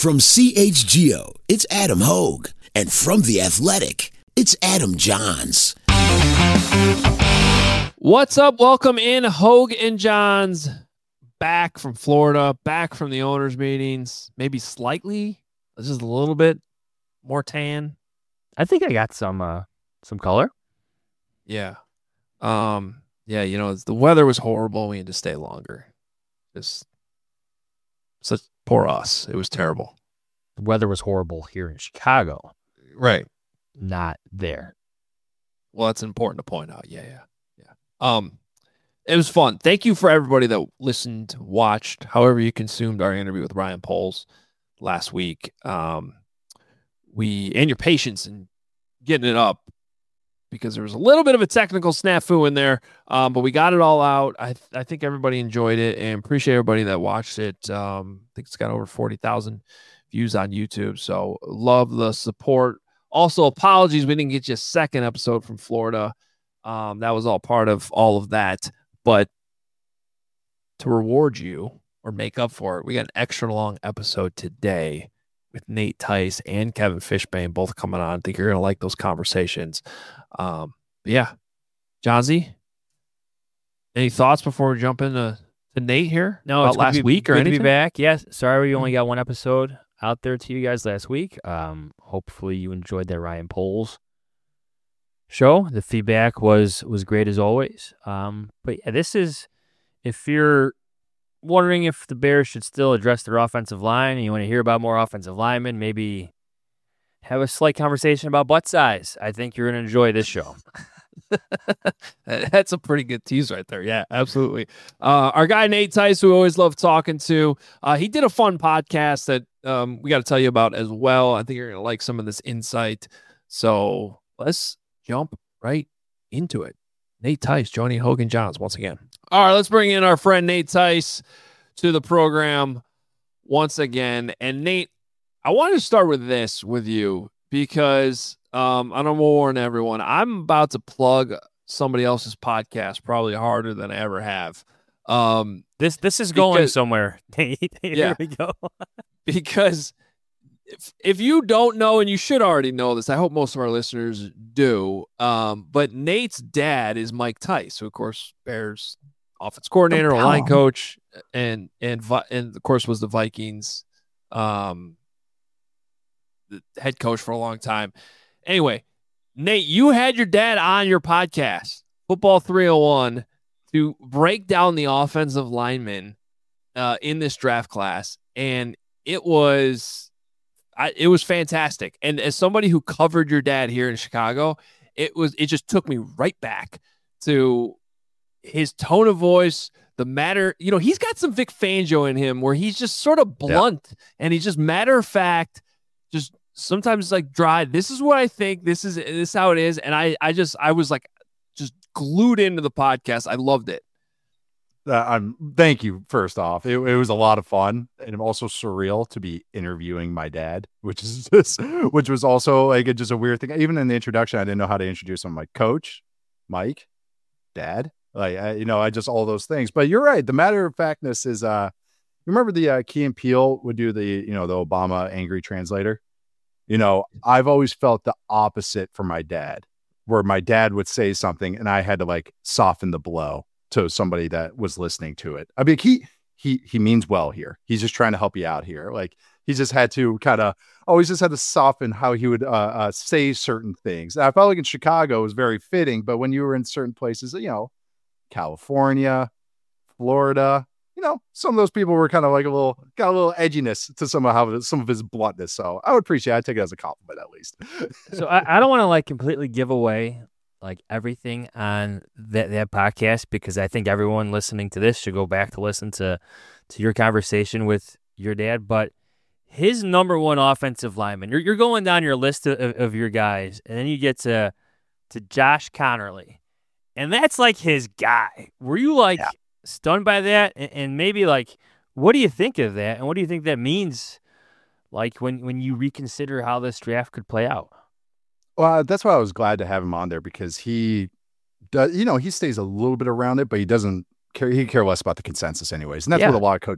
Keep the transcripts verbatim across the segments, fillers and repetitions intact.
From C H G O, it's Adam Hogue. And from The Athletic, it's Adam Johns. What's up? Welcome in, Hogue and Johns. Back from Florida, back from the owners' meetings. Maybe slightly, just a little bit more tan. I think I got some uh, some color. Yeah. Um, yeah, you know, it's, the weather was horrible. We had to stay longer. Just such poor us. It was terrible. The weather was horrible here in Chicago. Right. Not there. Well, that's important to point out. Yeah, yeah, yeah. Um, it was fun. Thank you for everybody that listened, watched, however you consumed our interview with Ryan Poles last week. Um, we and your patience in getting it up, because there was a little bit of a technical snafu in there, um, but we got it all out. I th- I think everybody enjoyed it, and appreciate everybody that watched it. Um, I think it's got over forty thousand views on YouTube, so love the support. Also, apologies we didn't get you a second episode from Florida. Um, that was all part of all of that, but to reward you or make up for it, we got an extra long episode today with Nate Tice and Kevin Fishbane both coming on. I think you're going to like those conversations. Um, but yeah, Johnsy, any thoughts before we jump into to Nate here? No, about it's last good to be, week or good anything? to be back. Yes, sorry we only got one episode out there to you guys last week. Um, hopefully you enjoyed that Ryan Poles show. The feedback was was great as always. Um, but yeah, this is, if you're wondering if the Bears should still address their offensive line and you want to hear about more offensive linemen, maybe have a slight conversation about butt size, I think you're going to enjoy this show. That's a pretty good tease right there. Yeah, absolutely. Uh, our guy Nate Tice, who we always love talking to, uh, he did a fun podcast that um, we got to tell you about as well. I think you're going to like some of this insight. So let's jump right into it. Nate Tice joining Hogan Johns once again. All right, let's bring in our friend Nate Tice to the program once again. And Nate, I wanted to start with this with you because um, I don't want to warn everyone. I'm about to plug somebody else's podcast probably harder than I ever have. Um, This this is going because- somewhere. Here Yeah. we go. because if, if you don't know, and you should already know this, I hope most of our listeners do, um, but Nate's dad is Mike Tice, who, of course, Bears offense coordinator, Don't line tell him. coach, and, and, Vi- and of course, was the Vikings um, the head coach for a long time. Anyway, Nate, you had your dad on your podcast, Football three oh one, to break down the offensive linemen uh, in this draft class, and it was I, it was fantastic. And as somebody who covered your dad here in Chicago, it was it just took me right back to his tone of voice, the matter. You know, he's got some Vic Fangio in him where he's just sort of blunt yeah. and he's just matter of fact, just sometimes it's like dry. This is what I think. This is this is how it is. And I I just I was like just glued into the podcast. I loved it. Uh, I'm thank you. First off, it, it was a lot of fun and also surreal to be interviewing my dad, which is just, which was also like a, just a weird thing. Even in the introduction, I didn't know how to introduce him. Like coach, Mike, dad, like I, you know, I just all those things. But you're right. The matter of factness is, uh, you remember the uh, Key and Peele would do the you know the Obama angry translator. You know, I've always felt the opposite for my dad, where my dad would say something and I had to like soften the blow to somebody that was listening to it. I mean, he, he, he means well here. He's just trying to help you out here. Like he just had to kind of always just had to soften how he would uh, uh, say certain things. And I felt like in Chicago it was very fitting, but when you were in certain places, you know, California, Florida, you know, some of those people were kind of like a little, got a little edginess to some of how some of his bluntness. So I would appreciate it. I'd take it as a compliment at least. So I, I don't want to like completely give away like everything on that, that podcast, because I think everyone listening to this should go back to listen to, to your conversation with your dad. But his number one offensive lineman, you're you're going down your list of, of your guys, and then you get to to Josh Connerly, and that's like his guy. Were you like yeah. stunned by that? And, and maybe like, what do you think of that? And what do you think that means, like when when you reconsider how this draft could play out? Well, that's why I was glad to have him on there, because he does, you know, he stays a little bit around it, but he doesn't care. He care less about the consensus anyways. And that's yeah. what a lot of coaches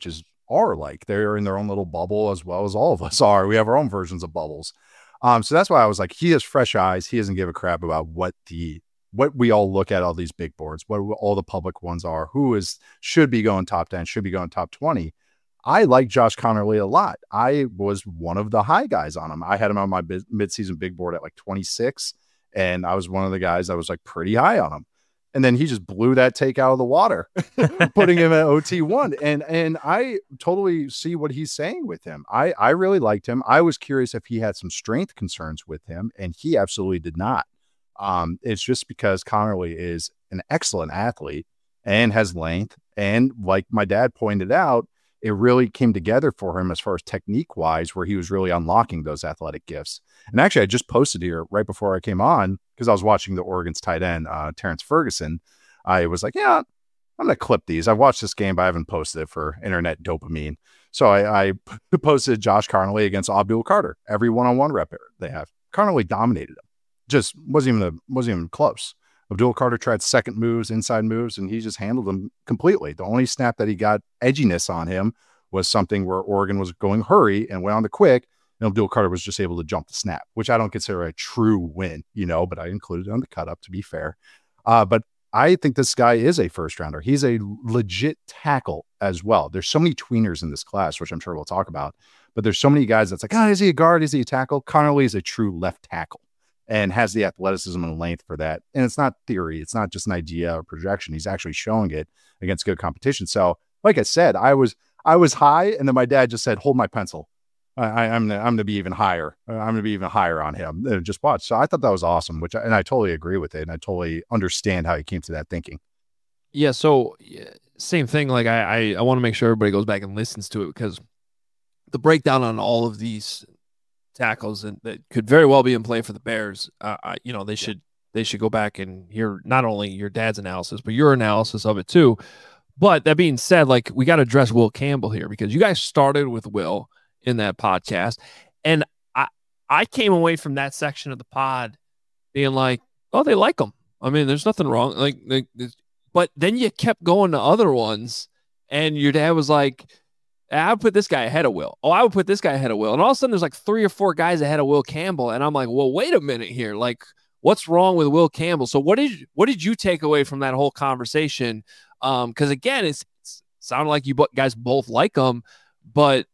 are like. They're in their own little bubble as well as all of us are. We have our own versions of bubbles. Um, so that's why I was like, he has fresh eyes. He doesn't give a crap about what the what we all look at all these big boards, what all the public ones are, who is should be going top ten, should be going top twenty. I like Josh Conerly a lot. I was one of the high guys on him. I had him on my midseason big board at like twenty-six, and I was one of the guys that was like pretty high on him. And then he just blew that take out of the water, putting him at O T one. And and I totally see what he's saying with him. I, I really liked him. I was curious if he had some strength concerns with him, and he absolutely did not. Um, it's just because Conerly is an excellent athlete and has length. And like my dad pointed out, it really came together for him as far as technique wise, where he was really unlocking those athletic gifts. And actually, I just posted here right before I came on because I was watching the Oregon's tight end, uh, Terrence Ferguson. I was like, yeah, I'm going to clip these. I've watched this game, but I haven't posted it for internet dopamine. So I, I posted Josh Conerly against Abdul Carter, every one-on-one rep they have. Conerly dominated him. Just wasn't even, a, wasn't even close. Abdul Carter tried second moves, inside moves, and he just handled them completely. The only snap that he got edginess on him was something where Oregon was going hurry and went on the quick, and Abdul Carter was just able to jump the snap, which I don't consider a true win, you know, but I included it on the cut up to be fair. Uh, but I think this guy is a first rounder. He's a legit tackle as well. There's so many tweeners in this class, which I'm sure we'll talk about, but there's so many guys that's like, oh, is he a guard? Is he a tackle? Conerly is a true left tackle and has the athleticism and length for that. And it's not theory. It's not just an idea or projection. He's actually showing it against good competition. So like I said, I was, I was high, and then my dad just said, hold my pencil. I, I'm, I'm going to be even higher. I'm going to be even higher on him. Just watch. So I thought that was awesome, which, and I totally agree with it. And I totally understand how he came to that thinking. Yeah. So same thing. Like I, I, I want to make sure everybody goes back and listens to it, because the breakdown on all of these tackles and that could very well be in play for the Bears. Uh, I, you know, they should, they should go back and hear not only your dad's analysis, but your analysis of it too. But that being said, like, we got to address Will Campbell here, because you guys started with Will in that podcast. And I, I came away from that section of the pod being like, oh, they like him. I mean, there's nothing wrong. Like, they, they, but then you kept going to other ones, and your dad was like, I would put this guy ahead of Will. Oh, I would put this guy ahead of Will. And all of a sudden there's like three or four guys ahead of Will Campbell. And I'm like, well, wait a minute here. Like, what's wrong with Will Campbell? So what did, what did you take away from that whole conversation? Um, cause again, it's, it's sounded like you guys both like him, but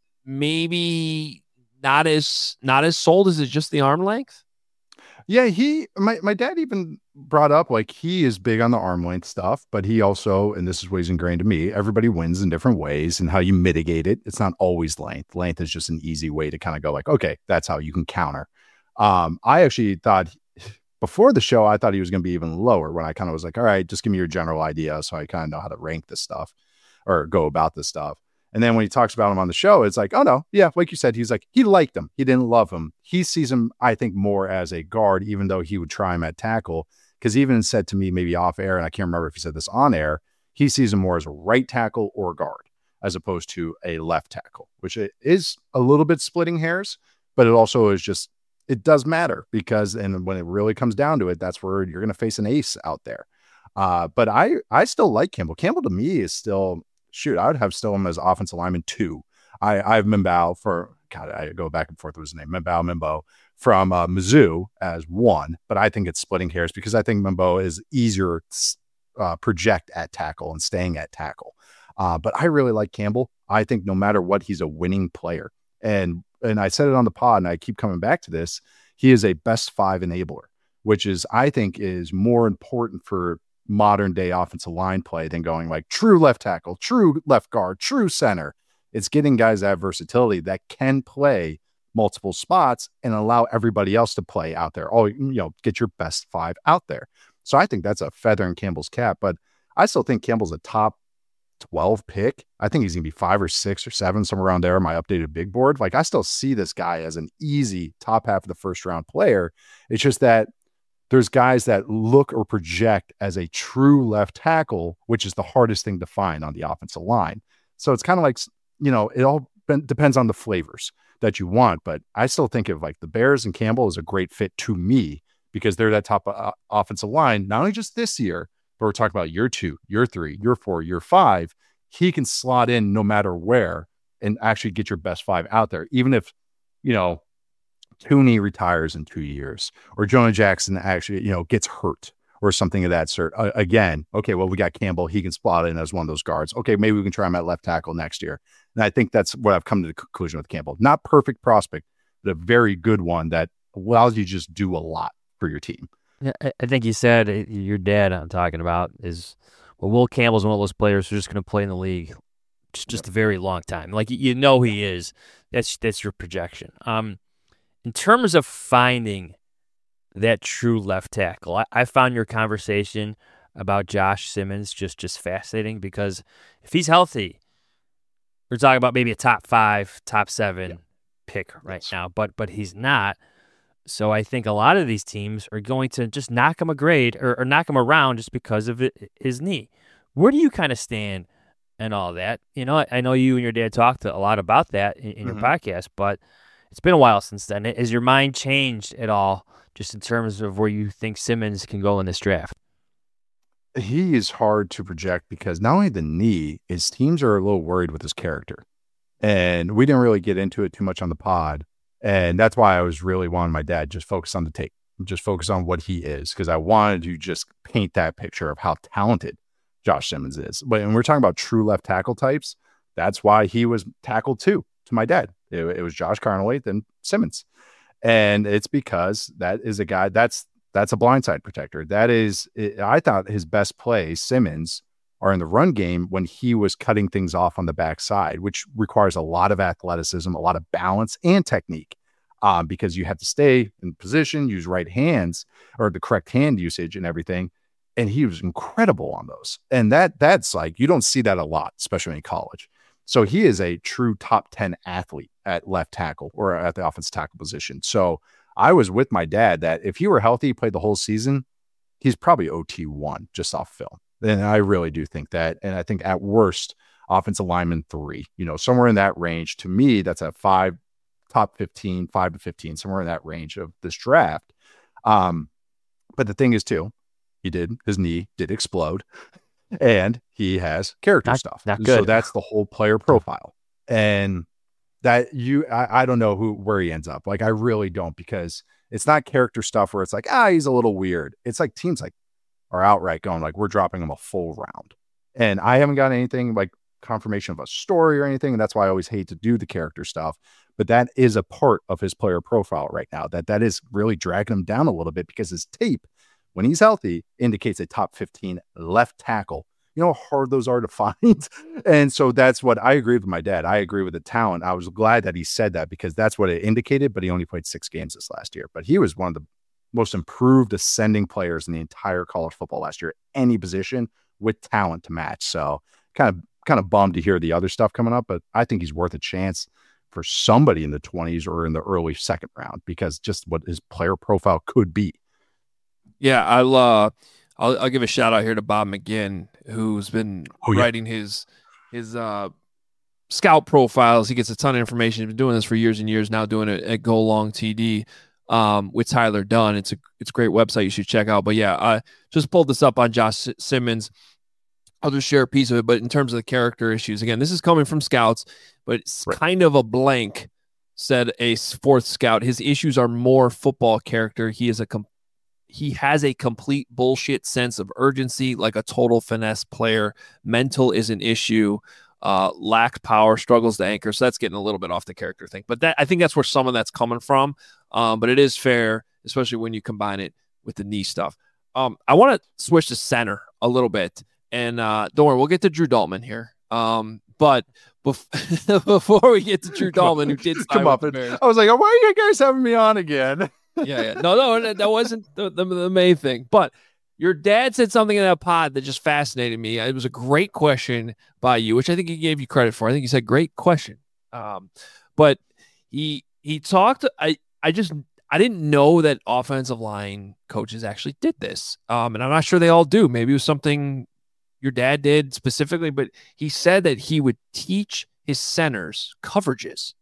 maybe not as, not as sold as it's just the arm length. Yeah, he, my, my dad even brought up, like, he is big on the arm length stuff, but he also, and this is what he's ingrained to me, everybody wins in different ways and how you mitigate it. It's not always length. Length is just an easy way to kind of go like, okay, that's how you can counter. Um, I actually thought before the show, I thought he was going to be even lower, when I kind of was like, all right, just give me your general idea, so I kind of know how to rank this stuff or go about this stuff. And then when he talks about him on the show, it's like, oh no, yeah, like you said, he's like, he liked him. He didn't love him. He sees him, I think, more as a guard, even though he would try him at tackle. Because he even said to me, maybe off air, and I can't remember if he said this on air, he sees him more as a right tackle or guard, as opposed to a left tackle, which is a little bit splitting hairs, but it also is just, it does matter, because, and when it really comes down to it, that's where you're going to face an ace out there. Uh, but I, I still like Campbell. Campbell to me is still, shoot, I would have still him as offensive lineman two. I, I have Mimbo for, God, I go back and forth with his name, Mimbo, Mimbo from uh, Mizzou as one, but I think it's splitting hairs, because I think Mimbo is easier to uh, project at tackle and staying at tackle. Uh, but I really like Campbell. I think no matter what, he's a winning player. And, and I said it on the pod, and I keep coming back to this. He is a best five enabler, which is, I think, is more important for modern day offensive line play than going like true left tackle, true left guard, true center. It's getting guys that have versatility that can play multiple spots and allow everybody else to play out there. Oh, you know, get your best five out there. So I think that's a feather in Campbell's cap, but I still think Campbell's a top twelve pick. I think he's going to be five or six or seven, somewhere around there on my updated big board. Like, I still see this guy as an easy top half of the first round player. It's just that there's guys that look or project as a true left tackle, which is the hardest thing to find on the offensive line. So it's kind of like, you know, it all depends on the flavors that you want. But I still think of like the Bears, and Campbell is a great fit to me, because they're that top uh, offensive line, not only just this year, but we're talking about year two, year three, year four, year five. He can slot in no matter where, and actually get your best five out there, even if, you know, Tooney retires in two years or Jonah Jackson actually, you know, gets hurt or something of that sort. Uh, again, okay, well, we got Campbell. He can slot in as one of those guards. Okay, maybe we can try him at left tackle next year. And I think that's what I've come to the conclusion with Campbell. Not perfect prospect, but a very good one that allows you to just do a lot for your team. Yeah, I think you said your dad I'm talking about is, well, Will Campbell's one of those players who's just going to play in the league just, just a very long time. Like, you know he is. That's that's your projection. Um, in terms of finding that true left tackle, I, I found your conversation about Josh Simmons just, just fascinating because if he's healthy, we're talking about maybe a top five, top seven yeah. pick right yes. now, but but he's not. So I think a lot of these teams are going to just knock him a grade or, or knock him around just because of it, his knee. Where do you kind of stand and all that? You know, I, I know you and your dad talked a lot about that in, in mm-hmm. your podcast, but it's been a while since then. Has your mind changed at all just in terms of where you think Simmons can go in this draft? He is hard to project because not only the knee, his teams are a little worried with his character. And we didn't really get into it too much on the pod. And that's why I was really wanting my dad just focus on the tape, just focus on what he is, because I wanted to just paint that picture of how talented Josh Simmons is. But when we're talking about true left tackle types, that's why he was tackle two to my dad. It, it was Josh Carnoway, then Simmons. And it's because that is a guy that's that's a blindside protector. That is, it, I thought his best plays, Simmons, are in the run game when he was cutting things off on the backside, which requires a lot of athleticism, a lot of balance and technique, um, because you have to stay in position, use right hands or the correct hand usage and everything. And he was incredible on those. And that that's like, you don't see that a lot, especially in college. So he is a true top ten athlete at left tackle or at the offensive tackle position. So I was with my dad that if he were healthy, he played the whole season, he's probably O T one just off film. And I really do think that. And I think at worst, offensive lineman three, you know, somewhere in that range. To me, that's a five, top fifteen, five to fifteen, somewhere in that range of this draft. Um, but the thing is, too, he did, his knee did explode and he has character not, stuff. Not good. So that's the whole player profile. And that you, I, I don't know who, where he ends up. Like, I really don't, because it's not character stuff where it's like, ah, he's a little weird. It's like teams like, are outright going like, we're dropping him a full round. And I haven't got anything like confirmation of a story or anything. And that's why I always hate to do the character stuff. But that is a part of his player profile right now, that that is really dragging him down a little bit, because his tape, when he's healthy, indicates a top fifteen left tackle. You know how hard those are to find. And so that's what I agree with my dad. I agree with the talent. I was glad that he said that, because that's what it indicated, but he only played six games this last year. But he was one of the most improved ascending players in the entire college football last year, any position with talent to match. So kind of, kind of bummed to hear the other stuff coming up, but I think he's worth a chance for somebody in the twenties or in the early second round, because just what his player profile could be. Yeah. I'll, uh, I'll, I'll give a shout out here to Bob McGinn, who's been oh, yeah. writing his, his, uh, scout profiles. He gets a ton of information. He's been doing this for years and years now, doing it at Go Long T D. Um, with Tyler Dunn. It's a it's a great website you should check out. But yeah, I just pulled this up on Josh Simmons. I'll just share a piece of it. But in terms of the character issues, again, this is coming from scouts, but it's right. kind of a blank, said a fourth scout. His issues are more football character. He is a com- he has a complete bullshit sense of urgency, like a total finesse player. Mental is an issue. Uh, lack power, struggles to anchor. So that's getting a little bit off the character thing. But that I think that's where some of that's coming from. Um, but it is fair, especially when you combine it with the knee stuff. Um, I want to switch to center a little bit. And uh, don't worry, we'll get to Drew Dalman here. Um, but bef- before we get to Drew Dalman, who did come up, and I was like, oh, why are you guys having me on again? yeah, yeah. No, no, that wasn't the, the, the main thing. But your dad said something in that pod that just fascinated me. It was a great question by you, which I think he gave you credit for. I think he said, great question. Um, but he he talked, I, I just, I didn't know that offensive line coaches actually did this. Um, and I'm not sure they all do. Maybe it was something your dad did specifically, but he said that he would teach his centers coverages.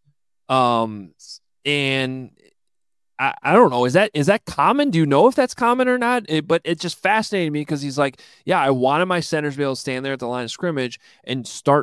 Um, and I, I don't know. Is that, is that common? Do you know if that's common or not? It, but it just fascinated me because he's like, yeah, I wanted my centers to be able to stand there at the line of scrimmage and start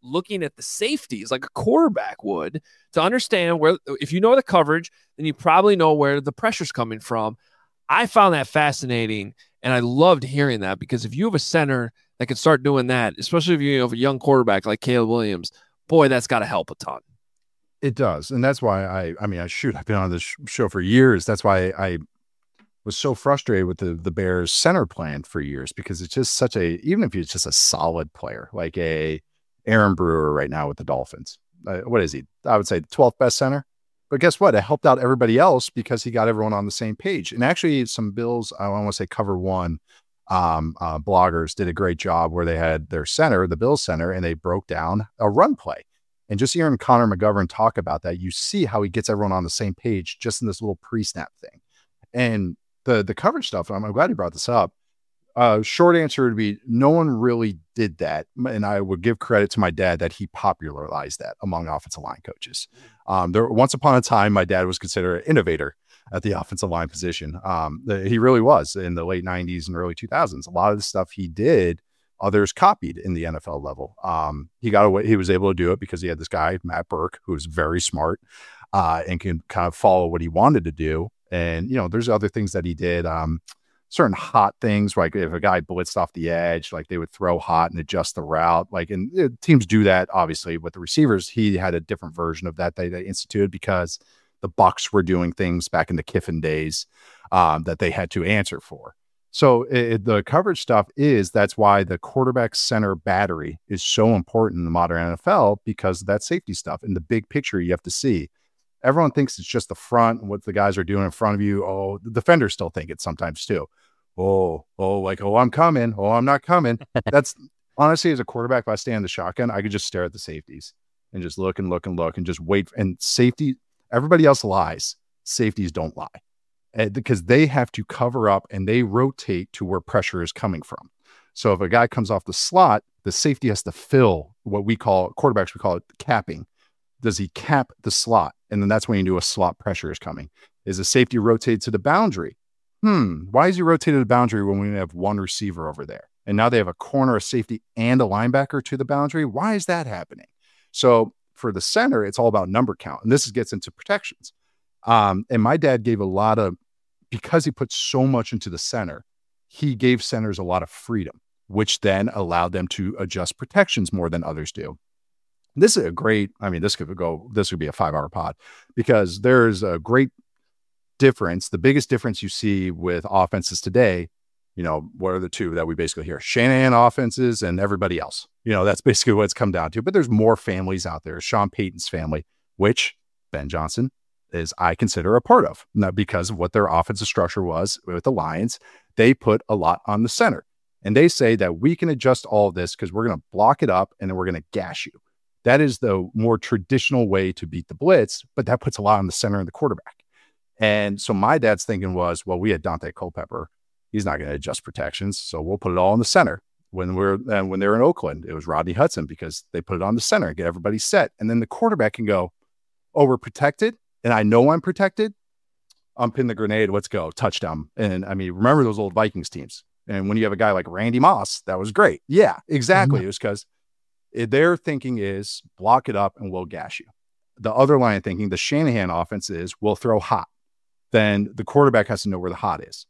looking at the safeties like a quarterback would to understand where, if you know the coverage, then you probably know where the pressure's coming from. I found that fascinating, and I loved hearing that, because if you have a center that can start doing that, especially if you have a young quarterback like Caleb Williams, boy, that's got to help a ton. It does. And that's why I, I mean, I shoot, I've been on this show for years. That's why I was so frustrated with the, the Bears center plan for years, because it's just such a, even if he's just a solid player, like a Aaron Brewer right now with the Dolphins, uh, what is he? I would say the twelfth best center. But guess what? It helped out everybody else because he got everyone on the same page. And actually some Bills, I want to say Cover One um, uh, bloggers did a great job where they had their center, the Bills center, and they broke down a run play. And just hearing Connor McGovern talk about that, you see how he gets everyone on the same page just in this little pre-snap thing. And the the coverage stuff, I'm, I'm glad you brought this up. Uh, short answer would be no one really did that. And I would give credit to my dad that he popularized that among offensive line coaches. Um, there, once upon a time, my dad was considered an innovator at the offensive line position. Um, the, he really was in the late nineties and early two thousands. A lot of the stuff he did, others copied in the N F L level. Um, he got away. He was able to do it because he had this guy, Matt Burke, who was very smart uh, and can kind of follow what he wanted to do. And, you know, there's other things that he did. Um, certain hot things, like if a guy blitzed off the edge, like they would throw hot and adjust the route. Like, and uh, teams do that, obviously, with the receivers. He had a different version of that they, they instituted because the Bucs were doing things back in the Kiffin days um, that they had to answer for. So it, the coverage stuff is, that's why the quarterback center battery is so important in the modern N F L, because of that safety stuff. In the big picture, you have to see. Everyone thinks it's just the front and what the guys are doing in front of you. Oh, the defenders still think it sometimes too. Oh, oh, like, oh, I'm coming. Oh, I'm not coming. That's honestly, as a quarterback, if I stay in the shotgun, I could just stare at the safeties and just look and look and look and just wait. And safety, everybody else lies. Safeties don't lie. Uh, because they have to cover up and they rotate to where pressure is coming from. So if a guy comes off the slot, the safety has to fill what we call, quarterbacks, we call it capping. Does he cap the slot? And then that's when you do a slot pressure is coming. Is the safety rotated to the boundary? Hmm. Why is he rotated to the boundary when we have one receiver over there? And now they have a corner, a safety, and a linebacker to the boundary. Why is that happening? So for the center, it's all about number count. And this gets into protections. Um, and my dad gave a lot of, because he put so much into the center, he gave centers a lot of freedom, which then allowed them to adjust protections more than others do. This is a great, I mean, this could go, this would be a five hour pod, because there's a great difference. The biggest difference you see with offenses today, you know, what are the two that we basically hear? Shanahan offenses and everybody else. You know, that's basically what it's come down to. But there's more families out there. Sean Payton's family, which Ben Johnson is, I consider, a part of. Now, because of what their offensive structure was with the Lions, they put a lot on the center. And they say that we can adjust all of this because we're going to block it up and then we're going to gash you. That is the more traditional way to beat the blitz, but that puts a lot on the center and the quarterback. And so my dad's thinking was, well, we had Dante Culpepper. He's not going to adjust protections, so we'll put it all in the center. When we're and when they were in Oakland, it was Rodney Hudson, because they put it on the center and get everybody set. And then the quarterback can go, oh, we're protected, and I know I'm protected. I'm pin the grenade. Let's go. Touchdown. And I mean, remember those old Vikings teams. And when you have a guy like Randy Moss, that was great. Yeah, exactly. Mm-hmm. It was because their thinking is block it up and we'll gash you. The other line of thinking, the Shanahan offense, is we'll throw hot. Then the quarterback has to know where the hot is.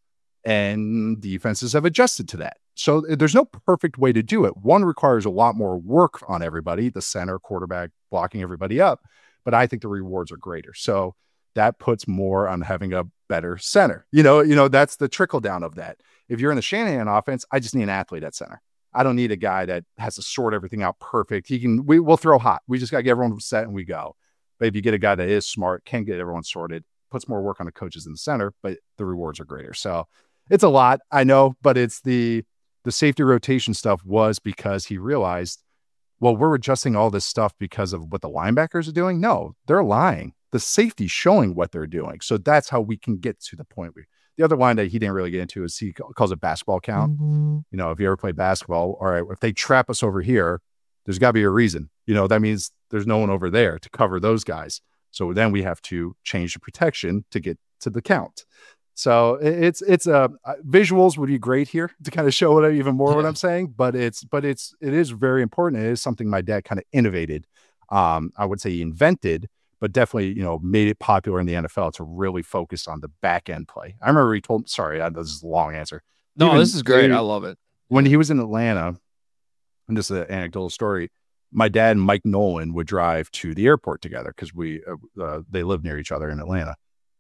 And defenses have adjusted to that. So there's no perfect way to do it. One requires a lot more work on everybody, the center, quarterback, blocking everybody up. But I think the rewards are greater. So that puts more on having a better center. You know, you know, that's the trickle down of that. If you're in the Shanahan offense, I just need an athlete at center. I don't need a guy that has to sort everything out perfect. He can, we, we'll throw hot. We just got to get everyone set and we go. But if you get a guy that is smart, can get everyone sorted, puts more work on the coaches in the center, but the rewards are greater. So it's a lot, I know, but it's the, the safety rotation stuff was because he realized, well, we're adjusting all this stuff because of what the linebackers are doing. No, they're lying. The safety's showing what they're doing. So that's how we can get to the point where the other line that he didn't really get into is he calls it basketball count. Mm-hmm. You know, if you ever play basketball, all right, if they trap us over here, there's got to be a reason. You know, that means there's no one over there to cover those guys. So then we have to change the protection to get to the count. So it's it's uh visuals would be great here to kind of show what I, even more yeah. what I'm saying, but it's but it's it is very important. It is something my dad kind of innovated. Um, I would say he invented, but definitely you know made it popular in the N F L to really focus on the back end play. I remember he told. Sorry, this is a long answer. No, even, this is great. I love it. When he was in Atlanta, and just an anecdotal story. My dad and Mike Nolan would drive to the airport together because we uh, uh, they live near each other in Atlanta.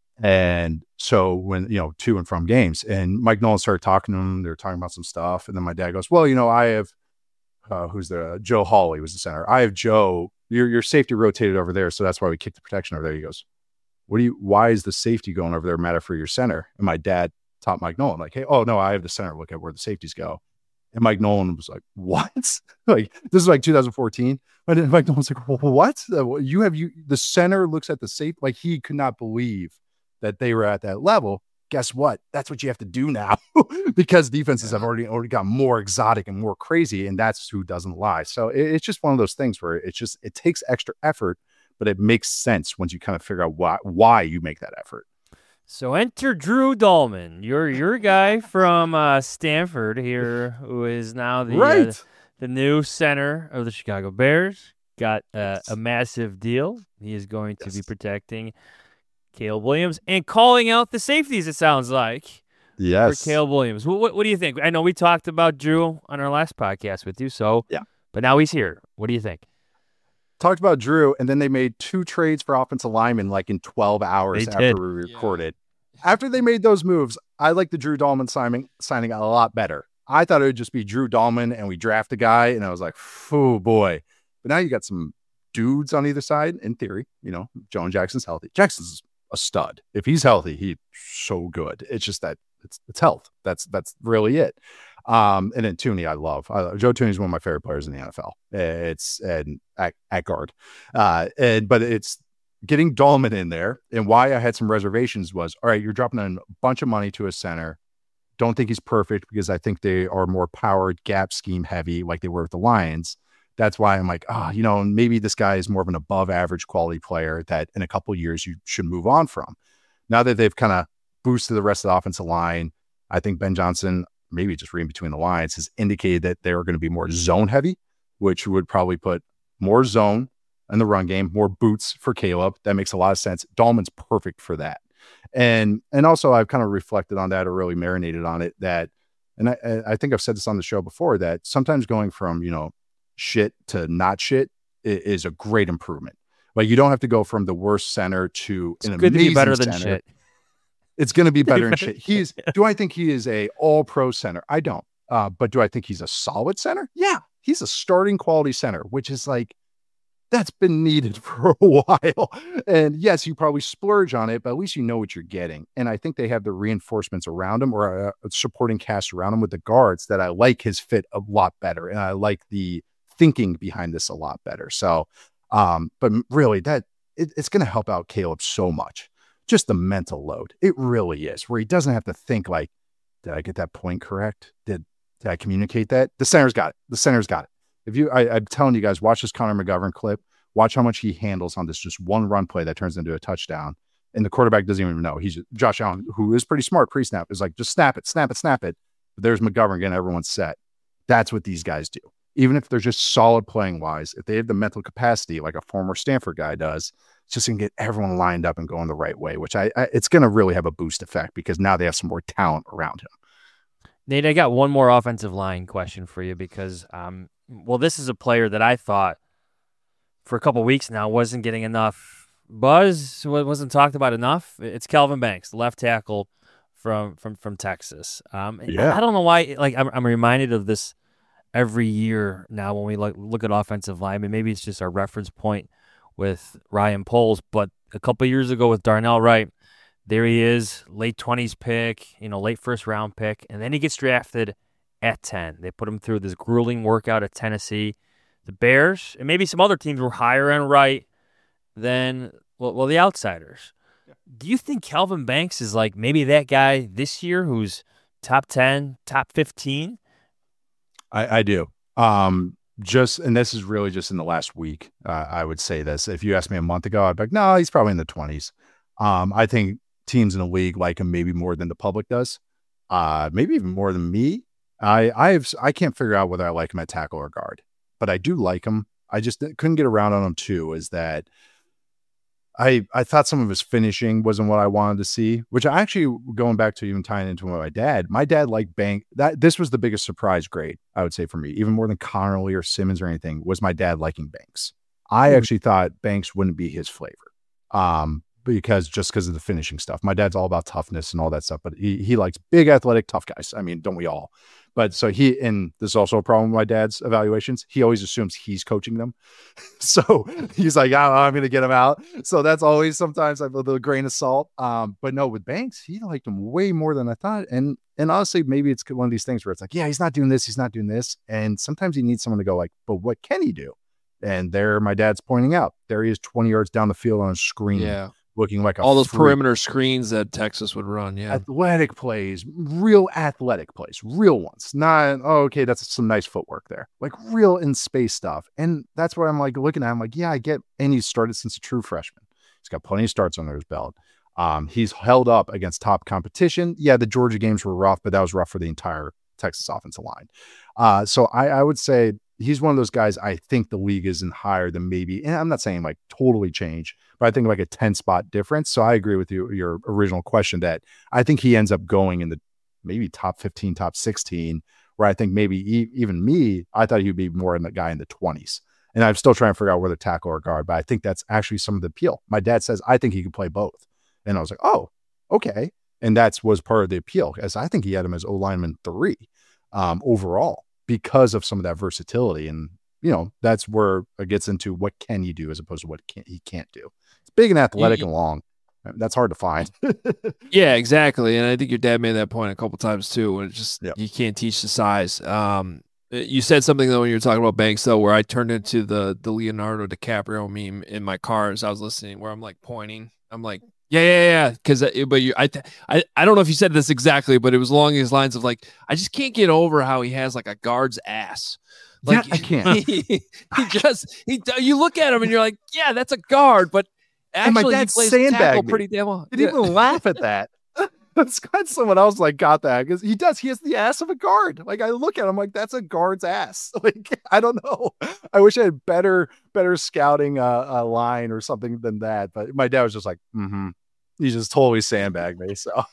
And so when, you know, to and from games, and Mike Nolan started talking to him, they were talking about some stuff. And then my dad goes, well, you know, I have, uh, who's the, Joe Hawley was the center. I have Joe, your, your safety rotated over there. So that's why we kicked the protection over there. He goes, what do you, why is the safety going over there matter for your center? And my dad taught Mike Nolan like, hey, oh no, I have the center. Look at where the safeties go. And Mike Nolan was like, what? Like, this is like two thousand fourteen. And Mike Nolan's like, well, what? You have, you, the center looks at the safe. Like he could not believe that they were at that level. Guess what? That's what you have to do now because defenses yeah. have already already got more exotic and more crazy, and that's who doesn't lie. So it, it's just one of those things where it's just it takes extra effort, but it makes sense once you kind of figure out why why you make that effort. So enter Drew Dolman, your your guy from uh, Stanford here, who is now the right. uh, the new center of the Chicago Bears. Got uh, a massive deal. He is going to yes. be protecting Caleb Williams and calling out the safeties, it sounds like. Yes. For Caleb Williams. What, what, what do you think? I know we talked about Drew on our last podcast with you, so yeah. But now he's here. What do you think? Talked about Drew, and then they made two trades for offensive linemen like in twelve hours they after did. we recorded. Yeah. After they made those moves, I like the Drew Dolman signing signing a lot better. I thought it would just be Drew Dolman and we draft a guy, and I was like, oh boy. But now you got some dudes on either side, in theory. You know, Joan Jackson's healthy. Jackson's a stud. If he's healthy, he's so good. It's just that it's it's health. That's that's really it. Um, and then Tooney, I love. I, Joe Tooney is one of my favorite players in the N F L. It's and at, at guard, uh, and but it's getting Dolman in there. And why I had some reservations was, all right, you're dropping a bunch of money to a center. Don't think he's perfect because I think they are more powered gap scheme heavy, like they were with the Lions. That's why I'm like, ah, oh, you know, maybe this guy is more of an above average quality player that in a couple of years you should move on from. Now that they've kind of boosted the rest of the offensive line, I think Ben Johnson, maybe just reading between the lines, has indicated that they're going to be more zone heavy, which would probably put more zone in the run game, more boots for Caleb. That makes a lot of sense. Dolman's perfect for that. And and also I've kind of reflected on that or really marinated on it that, and I, I think I've said this on the show before, that sometimes going from, you know, shit to not shit is a great improvement. Like you don't have to go from the worst center to it's an good amazing to be better than center. shit. It's going to be better than shit. He's. Do I think he is a all pro center? I don't. Uh, but do I think he's a solid center? Yeah, he's a starting quality center, which is like that's been needed for a while. And yes, you probably splurge on it, but at least you know what you're getting. And I think they have the reinforcements around him or a, a supporting cast around him with the guards that I like his fit a lot better, and I like the thinking behind this a lot better. So, um, but really that it, it's going to help out Caleb so much. Just the mental load. It really is, where he doesn't have to think like, did I get that point correct? Did, did I communicate that? The center's got it. The center's got it. If you, I, I'm telling you guys, watch this Connor McGovern clip, watch how much he handles on this, just one run play that turns into a touchdown. And the quarterback doesn't even know. He's Josh Allen, who is pretty smart pre-snap, is like, just snap it, snap it, snap it. But there's McGovern getting everyone set. That's what these guys do. Even if they're just solid playing wise, if they have the mental capacity like a former Stanford guy does, it's just going to get everyone lined up and going the right way, which I, I it's going to really have a boost effect because now they have some more talent around him. Nate, I got one more offensive line question for you because, um, well, this is a player that I thought for a couple of weeks now wasn't getting enough buzz, wasn't talked about enough. It's Kelvin Banks, the left tackle from from from Texas. Um, yeah. I don't know why. Like I'm, I'm reminded of this every year now when we look look at offensive linemen. Maybe it's just our reference point with Ryan Poles, but a couple of years ago with Darnell Wright, there he is, late twenties pick, you know, late first round pick, and then he gets drafted at ten. They put him through this grueling workout at Tennessee. The Bears and maybe some other teams were higher on Wright than well, well the outsiders. Yeah. Do you think Kelvin Banks is like maybe that guy this year who's top ten, top fifteen? I, I do. Um, just, and this is really just in the last week. Uh, I would say this. If you asked me a month ago, I'd be like, no, he's probably in the twenties. Um, I think teams in the league like him maybe more than the public does. Uh, maybe even more than me. I I have I can't figure out whether I like him at tackle or guard, but I do like him. I just couldn't get around on him too. Is that I I thought some of his finishing wasn't what I wanted to see, which I actually, going back to even tying into my dad, my dad liked Bank. That this was the biggest surprise grade, I would say, for me, even more than Connerly or Simmons or anything, was my dad liking Banks. I mm. actually thought Banks wouldn't be his flavor. Um, because just because of the finishing stuff. My dad's all about toughness and all that stuff, but he he likes big, athletic, tough guys. I mean, don't we all? But so he, and this is also a problem with my dad's evaluations. He always assumes he's coaching them. So he's like, oh, I'm going to get him out. So that's always sometimes a little grain of salt. Um, but no, with Banks, he liked him way more than I thought. And, and honestly, maybe it's one of these things where it's like, yeah, he's not doing this. He's not doing this. And sometimes he needs someone to go like, but what can he do? And there, my dad's pointing out, there he is twenty yards down the field on a screen. Yeah. Looking like a all those freak. perimeter screens that Texas would run. Yeah. Athletic plays, real athletic plays, real ones. Not, oh, okay, that's some nice footwork there. Like real in space stuff. And that's what I'm like looking at. I'm like, yeah, I get. And he started since a true freshman. He's got plenty of starts under his belt. Um, he's held up against top competition. Yeah, the Georgia games were rough, but that was rough for the entire Texas offensive line. Uh, so I, I would say he's one of those guys I think the league isn't higher than maybe, and I'm not saying like totally change, but I think like a ten spot difference. So I agree with you, your original question, that I think he ends up going in the maybe top fifteen, top sixteen, where I think maybe e- even me, I thought he'd be more in the guy in the twenties. And I'm still trying to figure out whether tackle or guard, but I think that's actually some of the appeal. My dad says, I think he can play both. And I was like, oh, okay. And that's was part of the appeal, as I think he had him as O-lineman three um, overall, because of some of that versatility. And, you know, that's where it gets into what can you do as opposed to what can, he can't do. It's big and athletic yeah. and long. That's hard to find. Yeah, exactly. And I think your dad made that point a couple times too, when it's just, yep. you can't teach the size. Um, you said something though, when you were talking about Banks though, where I turned into the, the Leonardo DiCaprio meme in my car as I was listening, where I'm like pointing. I'm like, yeah, yeah, yeah. Cause, but you, I, I, I don't know if you said this exactly, but it was along these lines of like, I just can't get over how he has like a guard's ass. Like, yeah, I can't. He, he just, he, you look at him and you're like, yeah, that's a guard, but actually he plays tackle pretty damn well. Did yeah. even laugh at that? That's got someone else like got that, because he does. He has the ass of a guard. Like I look at him like that's a guard's ass. Like I don't know. I wish I had better better scouting uh, a line or something than that. But my dad was just like, mm-hmm. He just totally sandbagged me. So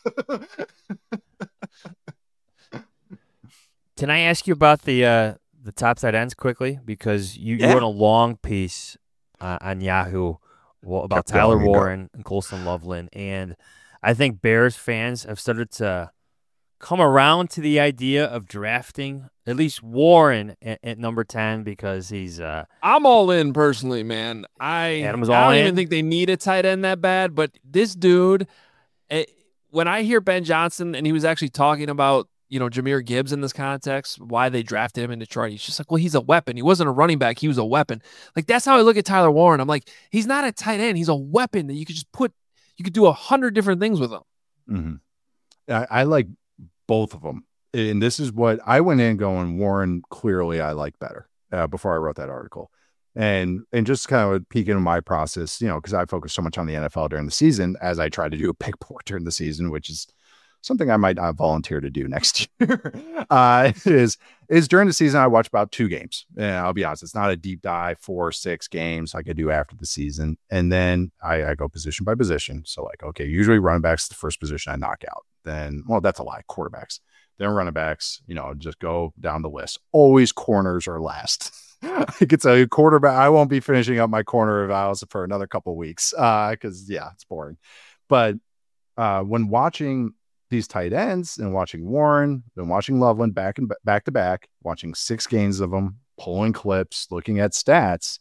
can I ask you about the uh, the top tight ends quickly, because you, yeah. you wrote a long piece uh, on Yahoo well, about Kept Tyler Warren and Colston Loveland, and I think Bears fans have started to come around to the idea of drafting at least Warren at, at number ten, because he's uh I'm all in personally, man. I, Adam's I all don't in. even think they need a tight end that bad, but this dude, it, when I hear Ben Johnson, and he was actually talking about, you know, Jahmyr Gibbs in this context, why they drafted him in Detroit, he's just like, well, he's a weapon. He wasn't a running back. He was a weapon. Like, that's how I look at Tyler Warren. I'm like, he's not a tight end. He's a weapon that you could just put, you could do a hundred different things with him. Mm-hmm. I, I like both of them. And this is what I went in going, Warren, clearly I like better uh, before I wrote that article. And and just kind of peek into my process, you know, because I focus so much on the N F L during the season, as I try to do a pick four during the season, which is something I might not volunteer to do next year. uh, is is during the season I watch about two games. And I'll be honest, it's not a deep dive, four or six games like I do after the season. And then I, I go position by position. So like, okay, usually running backs the first position I knock out. Then, well, that's a lie. Quarterbacks. Then running backs, you know, just go down the list. Always corners are last. I could tell you quarterback, I won't be finishing up my corner evals for another couple of weeks uh, because, yeah, it's boring. But uh, when watching these tight ends and watching Warren, then watching Loveland back and back to back, watching six games of them, pulling clips, looking at stats,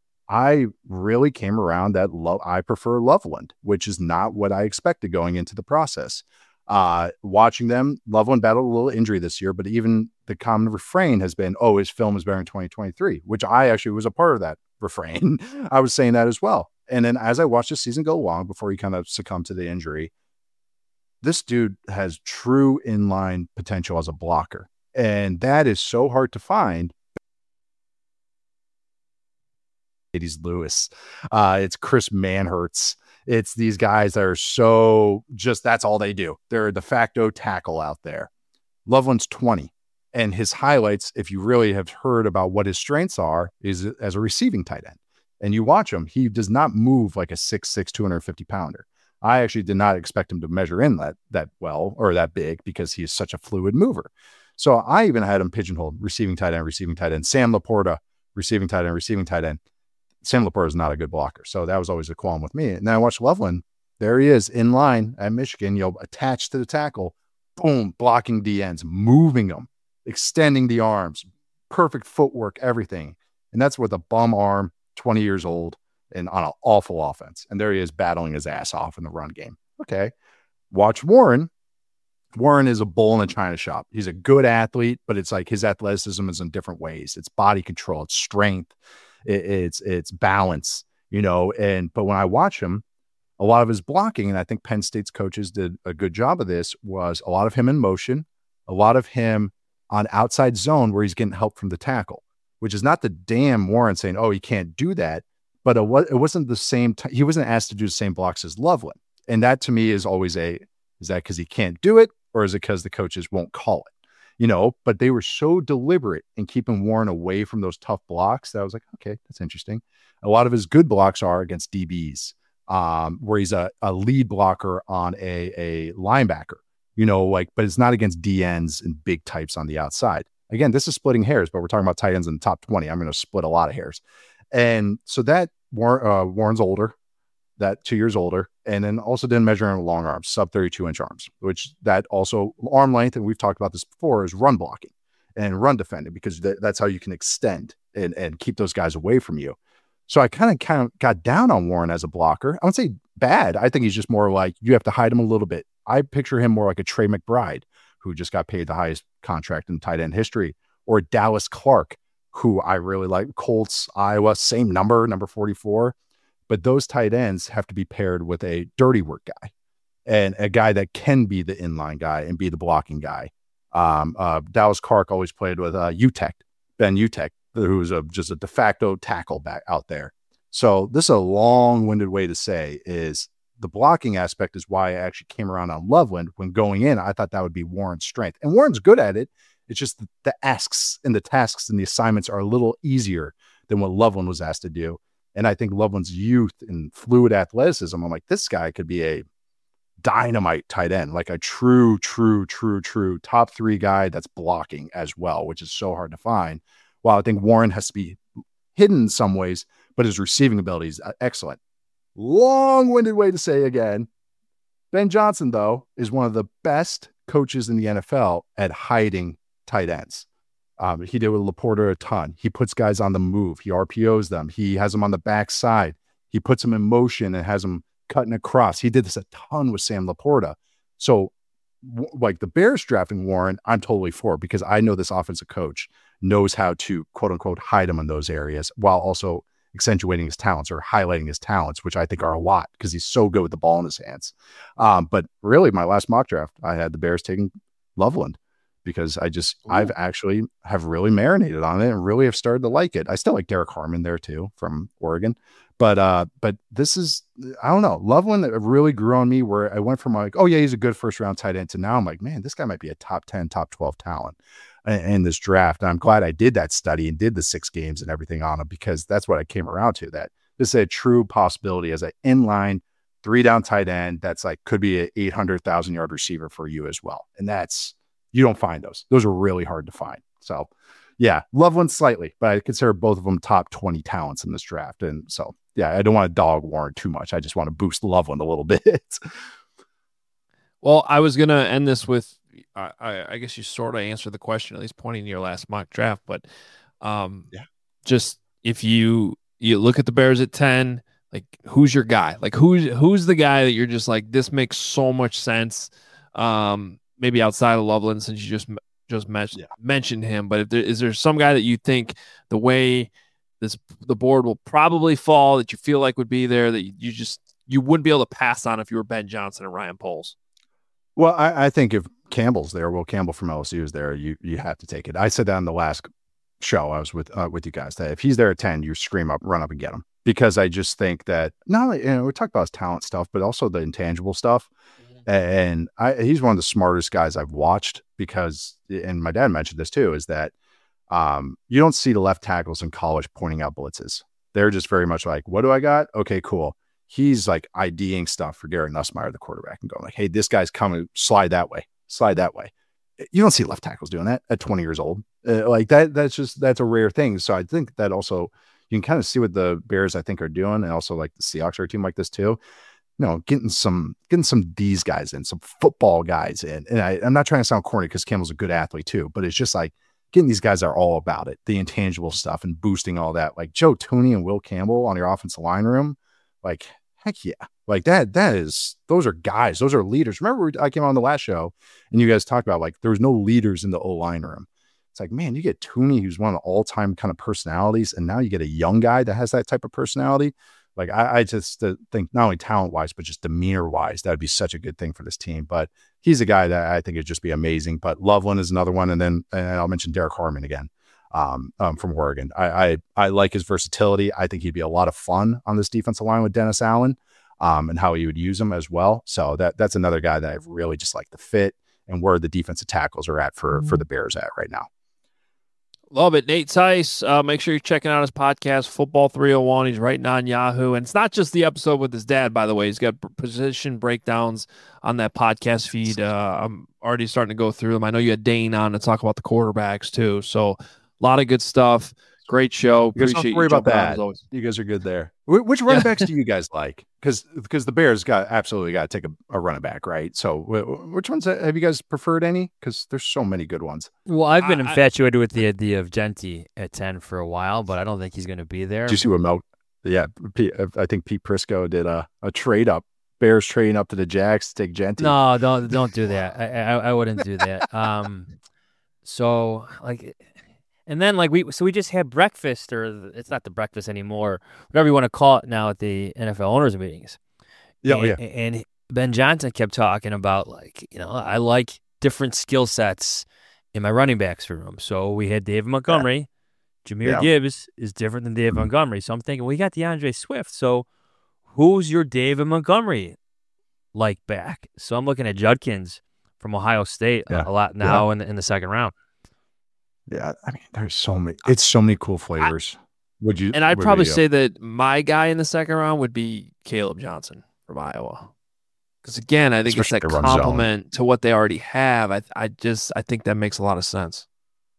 I really came around that lo- I prefer Loveland, which is not what I expected going into the process. Uh, watching them, Loveland battled a little injury this year, but even the common refrain has been, oh, his film is better in twenty twenty-three, which I actually was a part of that refrain. I was saying that as well. And then as I watched the season go along before he kind of succumbed to the injury, this dude has true inline potential as a blocker. And that is so hard to find. It's Lewis. Uh, it's Chris Manhertz. It's these guys that are so just, that's all they do. They're a de facto tackle out there. Loveland's twenty. And his highlights, if you really have heard about what his strengths are, is as a receiving tight end. And you watch him, he does not move like a six six, two hundred fifty pounder. I actually did not expect him to measure in that that well or that big because he is such a fluid mover. So I even had him pigeonholed, receiving tight end, receiving tight end. Sam Laporta, receiving tight end, receiving tight end. Sam Laporta is not a good blocker. So that was always a qualm with me. And then I watched Loveland. There he is in line at Michigan, you know, attached to the tackle, boom, blocking D Ns, moving them, extending the arms, perfect footwork, everything. And that's with a bum arm, twenty years old, and on an awful offense. And there he is battling his ass off in the run game. Okay. Watch Warren. Warren is a bull in a china shop. He's a good athlete, but it's like his athleticism is in different ways. It's body control, it's strength, it, it's it's balance, you know. And but when I watch him, a lot of his blocking, and I think Penn State's coaches did a good job of this, was a lot of him in motion, a lot of him on outside zone where he's getting help from the tackle, which is not the damn Warren saying, oh, he can't do that. But it, was, it wasn't the same. T- he wasn't asked to do the same blocks as Loveland. And that to me is always a, is that because he can't do it? Or is it because the coaches won't call it? You know, but they were so deliberate in keeping Warren away from those tough blocks that I was like, okay, that's interesting. A lot of his good blocks are against D Bs, um, where he's a, a lead blocker on a, a linebacker, you know, like, but it's not against D Ns and big types on the outside. Again, this is splitting hairs, but we're talking about tight ends in the top twenty. I'm going to split a lot of hairs. And so that Warren, uh, Warren's older, that two years older, and then also didn't measure in long arms, sub thirty-two inch arms, which that also arm length. And we've talked about this before, is run blocking and run defending, because th- that's how you can extend and, and keep those guys away from you. So I kind of kind of got down on Warren as a blocker. I wouldn't say bad. I think he's just more like, you have to hide him a little bit. I picture him more like a Trey McBride, who just got paid the highest contract in tight end history, or Dallas Clark, who I really like. Colts, Iowa, same number, number forty-four. But those tight ends have to be paired with a dirty work guy and a guy that can be the inline guy and be the blocking guy. Um, uh, Dallas Clark always played with uh, U T E C, Ben U T E C, who's a, just a de facto tackle back out there. So this is a long-winded way to say is the blocking aspect is why I actually came around on Loveland. When going in, I thought that would be Warren's strength. And Warren's good at it. It's just the, the asks and the tasks and the assignments are a little easier than what Loveland was asked to do. And I think Loveland's youth and fluid athleticism, I'm like, this guy could be a dynamite tight end, like a true, true, true, true top three guy that's blocking as well, which is so hard to find. While I think Warren has to be hidden in some ways, but his receiving ability is excellent. Long-winded way to say again, Ben Johnson, though, is one of the best coaches in the N F L at hiding tight ends. Um, he did with Laporta a ton. He puts guys on the move. He R P Os them. He has them on the backside. He puts them in motion and has them cutting across. He did this a ton with Sam Laporta. So w- like the Bears drafting Warren, I'm totally for, because I know this offensive coach knows how to quote unquote hide him in those areas while also accentuating his talents or highlighting his talents, which I think are a lot because he's so good with the ball in his hands. Um, but really my last mock draft, I had the Bears taking Loveland, because I just, Ooh. I've actually have really marinated on it and really have started to like it. I still like Derek Harmon there too from Oregon, but, uh, but this is, I don't know, Loveland really grew on me where I went from like, oh yeah, he's a good first round tight end to now I'm like, man, this guy might be a top ten, top twelve talent in, in this draft. And I'm glad I did that study and did the six games and everything on him, because that's what I came around to, that this is a true possibility as an inline three down tight end. That's like, could be an eight hundred thousand yard receiver for you as well. And that's, you don't find those. Those are really hard to find. So yeah, Loveland slightly, but I consider both of them top twenty talents in this draft. And so, yeah, I don't want to dog Warren too much. I just want to boost Loveland a little bit. Well, I was going to end this with, I, I, I guess you sort of answered the question, at least pointing to your last mock draft, but um, yeah, just if you, you look at the Bears at ten, like who's your guy? Like who's, who's the guy that you're just like, this makes so much sense. Um, maybe outside of Loveland, since you just just men- yeah. mentioned him, but if there is there some guy that you think the way this the board will probably fall that you feel like would be there that you, you just you wouldn't be able to pass on if you were Ben Johnson and Ryan Poles? Well, I, I think if Campbell's there, Will Campbell from L S U is there, you you have to take it. I said that on the last show I was with uh, with you guys that if he's there at ten, you scream up, run up and get him, because I just think that not only, you know, we talk about his talent stuff, but also the intangible stuff. Mm-hmm. And I, he's one of the smartest guys I've watched because, and my dad mentioned this too, is that um, you don't see the left tackles in college pointing out blitzes. They're just very much like, what do I got? Okay, cool. He's like IDing stuff for Garrett Nussmeier, the quarterback, and going like, hey, this guy's coming, slide that way, slide that way. You don't see left tackles doing that at twenty years old. Uh, like that, that's just, that's a rare thing. So I think that also you can kind of see what the Bears, I think, are doing. And also like the Seahawks are a team like this too. You know, getting some, getting some these guys in, some football guys in. And I, I'm not trying to sound corny because Campbell's a good athlete too, but it's just like getting these guys are all about it, the intangible stuff and boosting all that. Like Joe Thuney and Will Campbell on your offensive line room. Like, heck yeah. Like that, that is, those are guys, those are leaders. Remember, I came on the last show and you guys talked about like, there was no leaders in the O-line room. It's like, man, you get Thuney, who's one of the all-time kind of personalities. And now you get a young guy that has that type of personality. Like I, I just uh, think not only talent-wise, but just demeanor-wise, that would be such a good thing for this team. But he's a guy that I think would just be amazing. But Loveland is another one. And then and I'll mention Derek Harmon again. Um, um, from Oregon. I, I I like his versatility. I think he'd be a lot of fun on this defensive line with Dennis Allen, um, and how he would use him as well. So that that's another guy that I really just like the fit and where the defensive tackles are at for for the Bears at right now. Love it. Nate Tice, uh, make sure you're checking out his podcast, Football three oh one. He's writing on Yahoo. And it's not just the episode with his dad, by the way. He's got position breakdowns on that podcast feed. Uh, I'm already starting to go through them. I know you had Dane on to talk about the quarterbacks too. So a lot of good stuff. Great show. You guys don't have to worry about that. You guys are good there. Wh- Which running backs do you guys like? Because because the Bears got absolutely got to take a, a running back, right? So wh- which ones have you guys preferred any? Because there's so many good ones. Well, I've been I, infatuated with the idea of Genty at ten for a while, but I don't think he's going to be there. Did you see what Mel? Yeah, Pete, I think Pete Prisco did a, a trade up. Bears trading up to the Jacks to take Genty. No, don't don't do that. I, I I wouldn't do that. Um, so like. And then, like, we so we just had breakfast, or it's not the breakfast anymore, whatever you want to call it now at the N F L owners meetings. Yeah, and, yeah. And Ben Johnson kept talking about, like, you know, I like different skill sets in my running backs room. So we had David Montgomery. Yeah. Jahmyr yeah. Gibbs is different than David mm-hmm. Montgomery. So I'm thinking, well, we got DeAndre Swift. So who's your David Montgomery like back? So I'm looking at Judkins from Ohio State yeah. a lot now yeah. in, the, in the second round. Yeah, I mean, there's so many. It's so many cool flavors. I, would you? And I'd would probably you, say that my guy in the second round would be Caleb Johnson from Iowa, because again, I think Especially it's that compliment to what they already have. I, I just, I think that makes a lot of sense.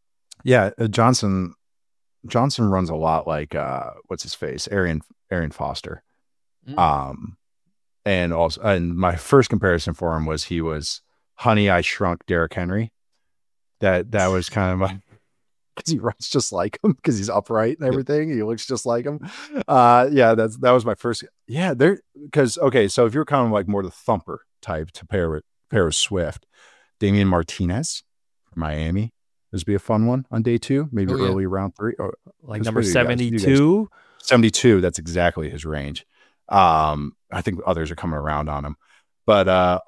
Yeah, uh, Johnson, Johnson runs a lot like uh, what's his face, Arian, Arian Foster, mm. um, and also, and my first comparison for him was he was Honey, I Shrunk Derrick Henry. That that was kind of my. Because he runs just like him, because he's upright and everything. He looks just like him. Uh, yeah, that's that was my first. Yeah, there. Because okay, so if you're kind of like more the thumper type to pair with pair with Swift, Damian Martinez from Miami. This would be a fun one on day two, maybe oh, yeah. early round three, or like number seventy-two. seventy-two. That's exactly his range. Um, I think others are coming around on him, but uh,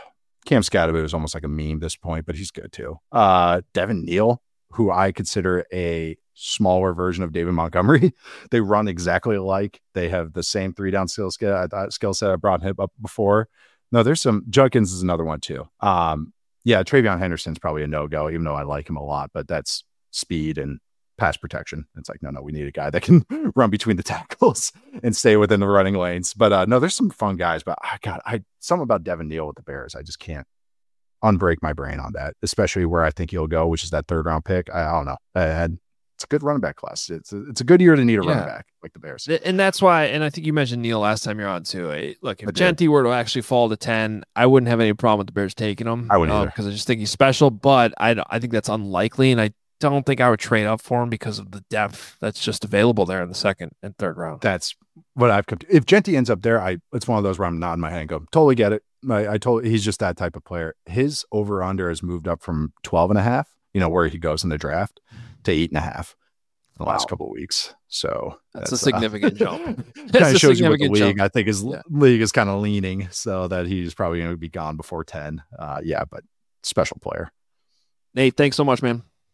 Cam Scatterby is almost like a meme at this point, but he's good too. Uh, Devin Neal, who I consider a smaller version of David Montgomery. They run exactly alike. They have the same three down skill set. I skill set I brought him up before. No, there's some. Judkins is another one too. Um, yeah, Travion Henderson's probably a no-go, even though I like him a lot, but that's speed and pass protection. It's like, no, no, we need a guy that can run between the tackles and stay within the running lanes. But uh, no, there's some fun guys, but I got I something about Devin Neal with the Bears. I just can't unbreak my brain on that, especially where I think he'll go, which is that third round pick. I, I don't know. I had, it's a good running back class. It's a, it's a good year to need a yeah. running back like the Bears. And that's why, and I think you mentioned Neal last time you're on too. Hey, look, if Genty were to actually fall to ten, I wouldn't have any problem with the Bears taking him. I wouldn't um, because I just think he's special, but I, I think that's unlikely. And I don't think I would trade up for him because of the depth that's just available there in the second and third round. That's what I've come to. If Genty ends up there, I it's one of those where I'm nodding my head and go, totally get it. I, I told he's just that type of player. His over under has moved up from twelve and a half, you know, where he goes in the draft, to eight and a half in the wow. last couple of weeks. So that's, that's a significant uh, jump. Kind of shows you what the league, jump. I think his yeah. league is kind of leaning so that he's probably going to be gone before ten. Uh, yeah, but special player. Nate, thanks so much, man.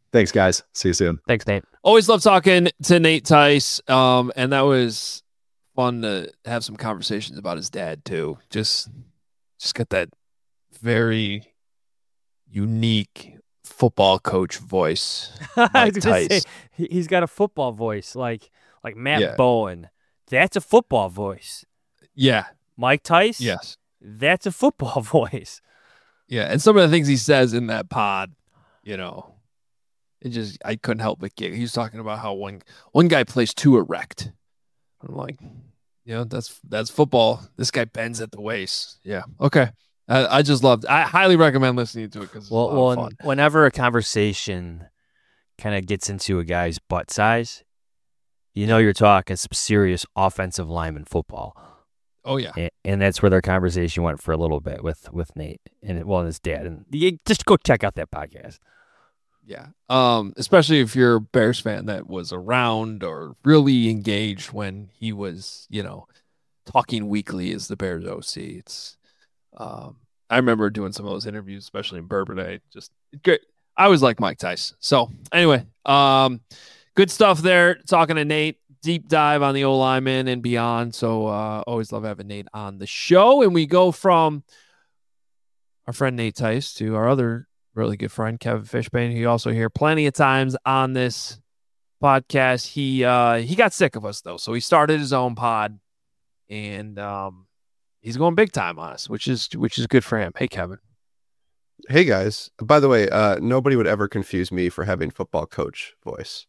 Thanks, guys. See you soon. Thanks, Nate. Always love talking to Nate Tice. Um, and that was fun to have some conversations about his dad too. Just, just got that very unique football coach voice. I was Mike gonna Tice. say, he- he's got a football voice, like like Matt Yeah. Bowen. That's a football voice. Yeah. Mike Tice. Yes. That's a football voice. Yeah. And some of the things he says in that pod, you know, it just, I couldn't help but giggle. He was talking about how one, one guy plays too erect. I'm like, you know, that's, that's football. This guy bends at the waist. Yeah. Okay. I, I just loved, I highly recommend listening to it because it's Well, a lot well, of fun. whenever a conversation kind of gets into a guy's butt size, you know you're talking some serious offensive lineman football. Oh yeah. And, and that's where their conversation went for a little bit with with Nate and well, and his dad. And you, just go check out that podcast. Yeah. Um, especially if you're a Bears fan that was around or really engaged when he was, you know, talking weekly as the Bears O C. It's um I remember doing some of those interviews, especially in Bourbonnais. Just great. I always like Mike Tice. So anyway, um, good stuff there. Talking to Nate, deep dive on the O lineman and beyond. So uh, always love having Nate on the show. And we go from our friend Nate Tice to our other really good friend Kevin Fishbane, who you also hear plenty of times on this podcast. He uh, he got sick of us though, so he started his own pod, and um, he's going big time on us, which is which is good for him. Hey, Kevin. Hey, guys. By the way, uh, nobody would ever confuse me for having football coach voice.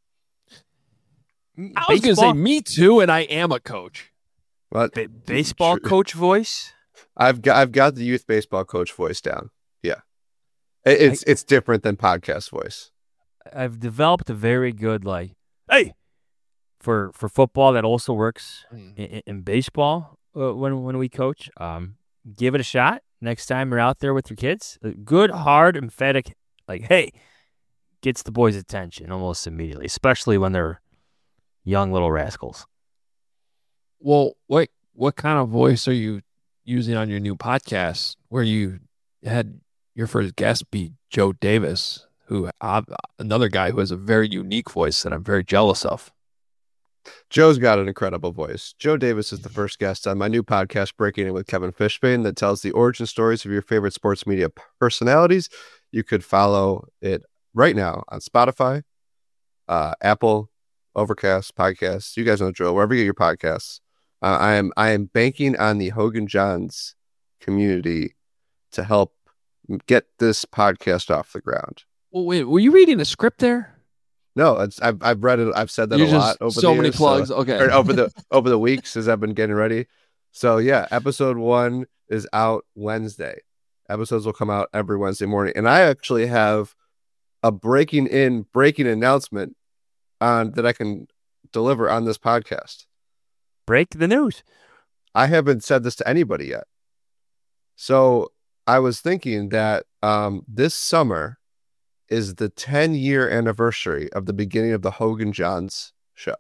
I was going to say me too, and I am a coach. Well, Ba- baseball True. coach voice. I've got I've got the youth baseball coach voice down. Yeah, It- it's it's different than podcast voice. I've developed a very good like, hey, for for football that also works Mm. in, in baseball uh, when when we coach. Um, give it a shot next time you're out there with your kids. A good, hard, emphatic, like, hey, gets the boys' attention almost immediately, especially when they're young little rascals. Well, what what kind of voice are you using on your new podcast where you had your first guest be Joe Davis, who uh, another guy who has a very unique voice that I'm very jealous of. Joe's got an incredible voice. Joe Davis is the first guest on my new podcast, Breaking In with Kevin Fishbane, that tells the origin stories of your favorite sports media personalities. You could follow it right now on Spotify, uh, Apple, Overcast, Podcasts. You guys know the drill. Wherever you get your podcasts. Uh, I am I am banking on the Hogan Johns community to help get this podcast off the ground. Well, wait, were you reading a script there? No, it's I've I've read it. I've said that You're a just lot over so the many years, plugs. Okay. or over the over the weeks as I've been getting ready. So yeah, episode one is out Wednesday. Episodes will come out every Wednesday morning, and I actually have a breaking in breaking announcement on that I can deliver on this podcast. Break the news. I haven't said this to anybody yet. So I was thinking that um, this summer is the ten year anniversary of the beginning of the Hogan Johns show.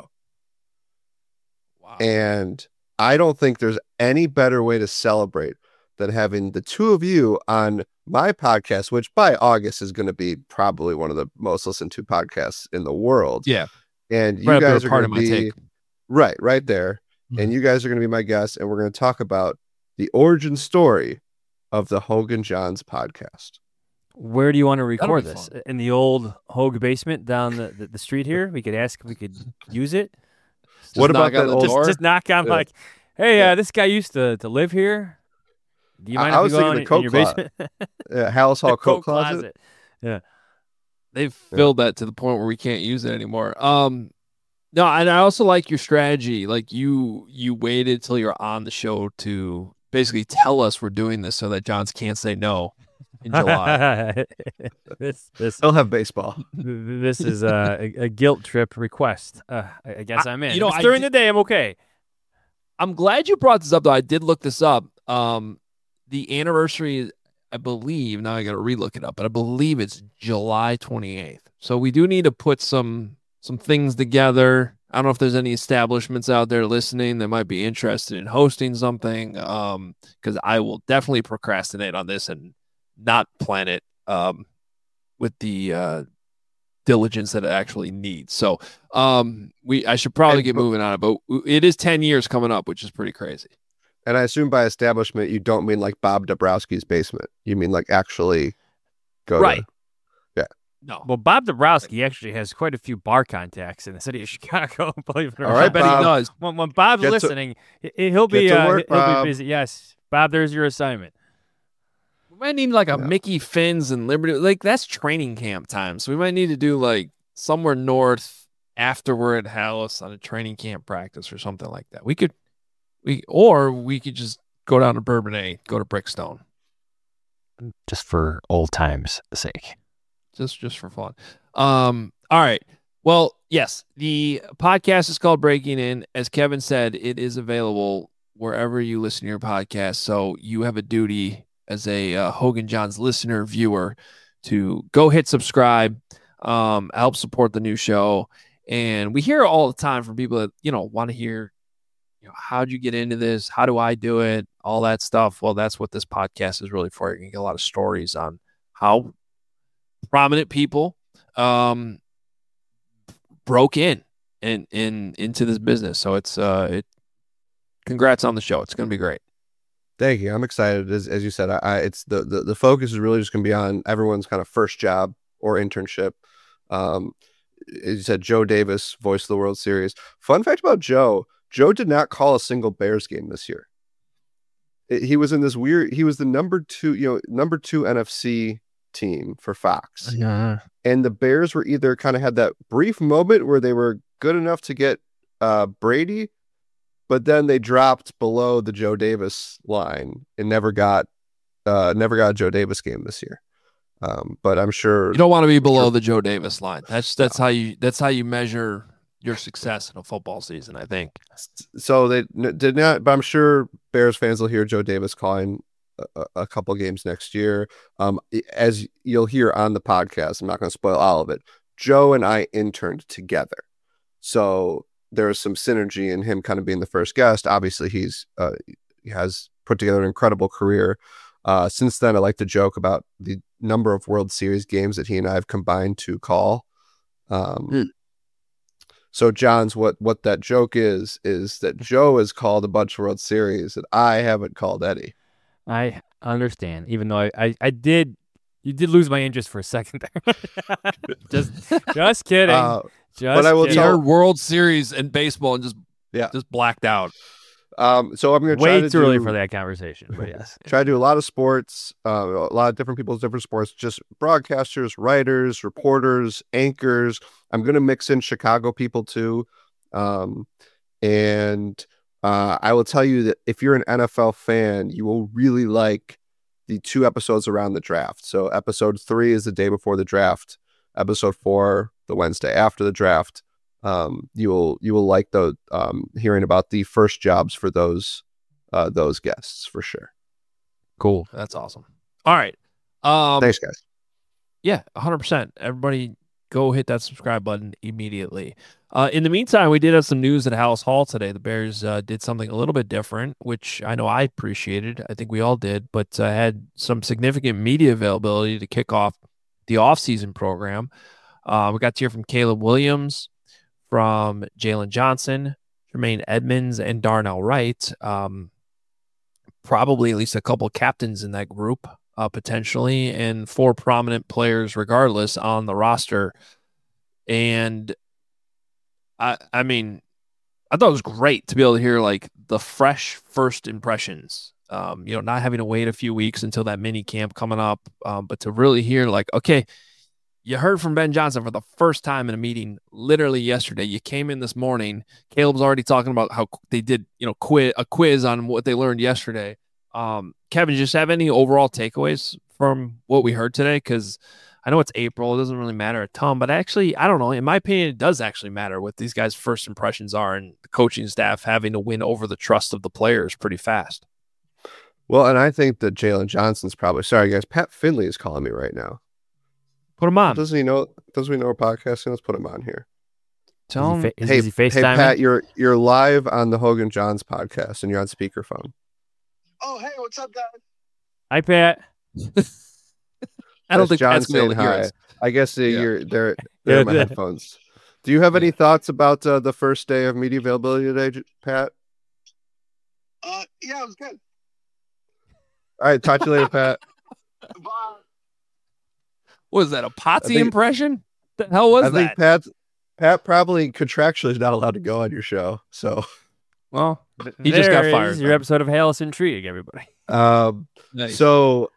Wow. And I don't think there's any better way to celebrate than having the two of you on my podcast, which by August is going to be probably one of the most listened to podcasts in the world. Yeah. And you Right up there, guys are part going of to my be take. right, right there. Mhm. And you guys are going to be my guests, and we're going to talk about the origin story of the Hogan Johns podcast. Where do you want to That'll record be this? fun. In the old Hogue basement down the, the, the street here? We could ask if we could use it. Just What about knock on that the old- Just, door? just knock on Yeah. like, hey, Yeah. uh, this guy used to, to live here. Do you I- mind I if was we go thinking in, the in coat your closet. basement? Uh, Hallis Hall The coat closet. They've filled that to the point where we can't use it anymore. Um, no, and I also like your strategy. Like you, you waited till you're on the show to basically tell us we're doing this so that Johns can't say no in July. this this They'll have baseball. this is a, a, a guilt trip request. Uh, I, I guess I- I, am in. you know, If it's I during did- the day, I'm okay. I'm glad you brought this up, though. I did look this up. Um, the anniversary, I believe, now I got to relook it up, but I believe it's July twenty-eighth. So we do need to put some some things together. I don't know if there's any establishments out there listening that might be interested in hosting something, um, because I will definitely procrastinate on this and not plan it um, with the uh, diligence that it actually needs. So um, we I should probably And- get moving on it, but it is ten years coming up, which is pretty crazy. And I assume by establishment, you don't mean like Bob Dabrowski's basement. You mean like actually go to- Right. No. Well, Bob Dabrowski actually has quite a few bar contacts in the city of Chicago. Believe it or All not. right, I bet Bob. he does. When, when Bob's Get to- listening, he- he'll be get to uh, work, he'll Bob. be busy. Yes, Bob, there's your assignment. We might need like a Yeah. Mickey Finn's and Liberty. Like that's training camp time. So we might need to do like somewhere north after we're at Hallis on a training camp practice or something like that. We could, we or we could just go down to Bourbonnais, go to Brickstone, Just for old times' sake. just just for fun. Um. All right. Well, yes, the podcast is called Breaking In. As Kevin said, it is available wherever you listen to your podcast. So you have a duty as a uh, Hogan Johns listener, viewer, to go hit subscribe, um, help support the new show. And we hear all the time from people that, you know, want to hear, you know, how'd you get into this? How do I do it? All that stuff. Well, that's what this podcast is really for. You can get a lot of stories on how prominent people um, broke in and in into this business. So it's uh, it. Congrats on the show. It's going to be great. Thank you. I'm excited. As, as you said, I, I it's the, the the focus is really just going to be on everyone's kind of first job or internship. Um, as you said, Joe Davis, voice of the World Series. Fun fact about Joe: Joe did not call a single Bears game this year. It- he was in this weird. He was the number two, you know, number two N F C team for Fox, Yeah. and the Bears were either kind of had that brief moment where they were good enough to get uh, Brady, but then they dropped below the Joe Davis line and never got uh, never got a Joe Davis game this year. Um, but I'm sure You don't want to be below the Joe Davis line. That's that's how you that's how you measure your success in a football season, I think. so. They n- did not, but I'm sure Bears fans will hear Joe Davis calling a, a couple games next year. Um, as you'll hear on the podcast, I'm not going to spoil all of it. Joe and I interned together, so there's some synergy in him kind of being the first guest. Obviously, he's uh, he has put together an incredible career. Uh, since then, I like to joke about the number of World Series games that he and I have combined to call. Um, Hmm. So, John's what what that joke is is that Joe has called a bunch of World Series that I haven't called Eddie. I understand, even though I, I, I did, you did lose my interest for a second there. just, just kidding. Uh, just but I will He kidding. tell- heard World Series and baseball and just Yeah. just blacked out. um, so I'm going to try Way to too early do- for that conversation, but yes. Try to do a lot of sports, uh, a lot of different people's different sports, just broadcasters, writers, reporters, anchors. I'm going to mix in Chicago people too. Um, and uh, I will tell you that if you're an N F L fan, you will really like the two episodes around the draft. So episode three is the day before the draft. Episode four, the Wednesday after the draft. Um, you will you will like the um, hearing about the first jobs for those uh, those guests for sure. Cool. That's awesome. All right. Um Thanks, guys. Yeah, one hundred percent. Everybody go hit that subscribe button immediately. Uh, in the meantime, we did have some news at Hallis Hall today. The Bears uh, did something a little bit different, which I know I appreciated. I think we all did, but uh, had some significant media availability to kick off the offseason program. Uh, we got to hear from Caleb Williams, from Jalen Johnson, Jermaine Edmonds, and Darnell Wright. Um, probably at least a couple captains in that group. Uh, potentially, and four prominent players regardless on the roster. And I I mean, I thought it was great to be able to hear like the fresh first impressions. Um, you know, not having to wait a few weeks until that mini camp coming up, um, but to really hear like, okay, you heard from Ben Johnson for the first time in a meeting literally yesterday. You came in this morning. Caleb's already talking about how they did, you know, quiz a quiz on what they learned yesterday. Um, Kevin, just have any overall takeaways from what we heard today? Because I know it's April. It doesn't really matter a ton, but actually, I don't know. In my opinion, it does actually matter what these guys' first impressions are and the coaching staff having to win over the trust of the players pretty fast. Well, and I think that Jalen Johnson's probably sorry, guys. Pat Finley is calling me right now. Put him on. Doesn't he know? Doesn't he know we're podcasting? Let's put him on here. Tell Is he him. fa- is, hey, is he hey, FaceTiming? Pat, you're you're live on the Hogan Johns podcast, and you're on speakerphone. Oh, hey, what's up, guys? Hi, Pat. I don't That's think John Pat's gonna be able saying to hear hi. us. I guess uh, Yeah. you're there. There are my Yeah. headphones. Do you have any Yeah. thoughts about uh, the first day of media availability today, J- Pat? Uh, yeah, it was good. All right, talk to you later, Pat. Bye. What was that, a Potsy think- impression? The hell was I that? think Pat Pat probably contractually is not allowed to go on your show. So, Well, he just got There fired. is your then. episode of Halos Intrigue, everybody. um, Nice. so,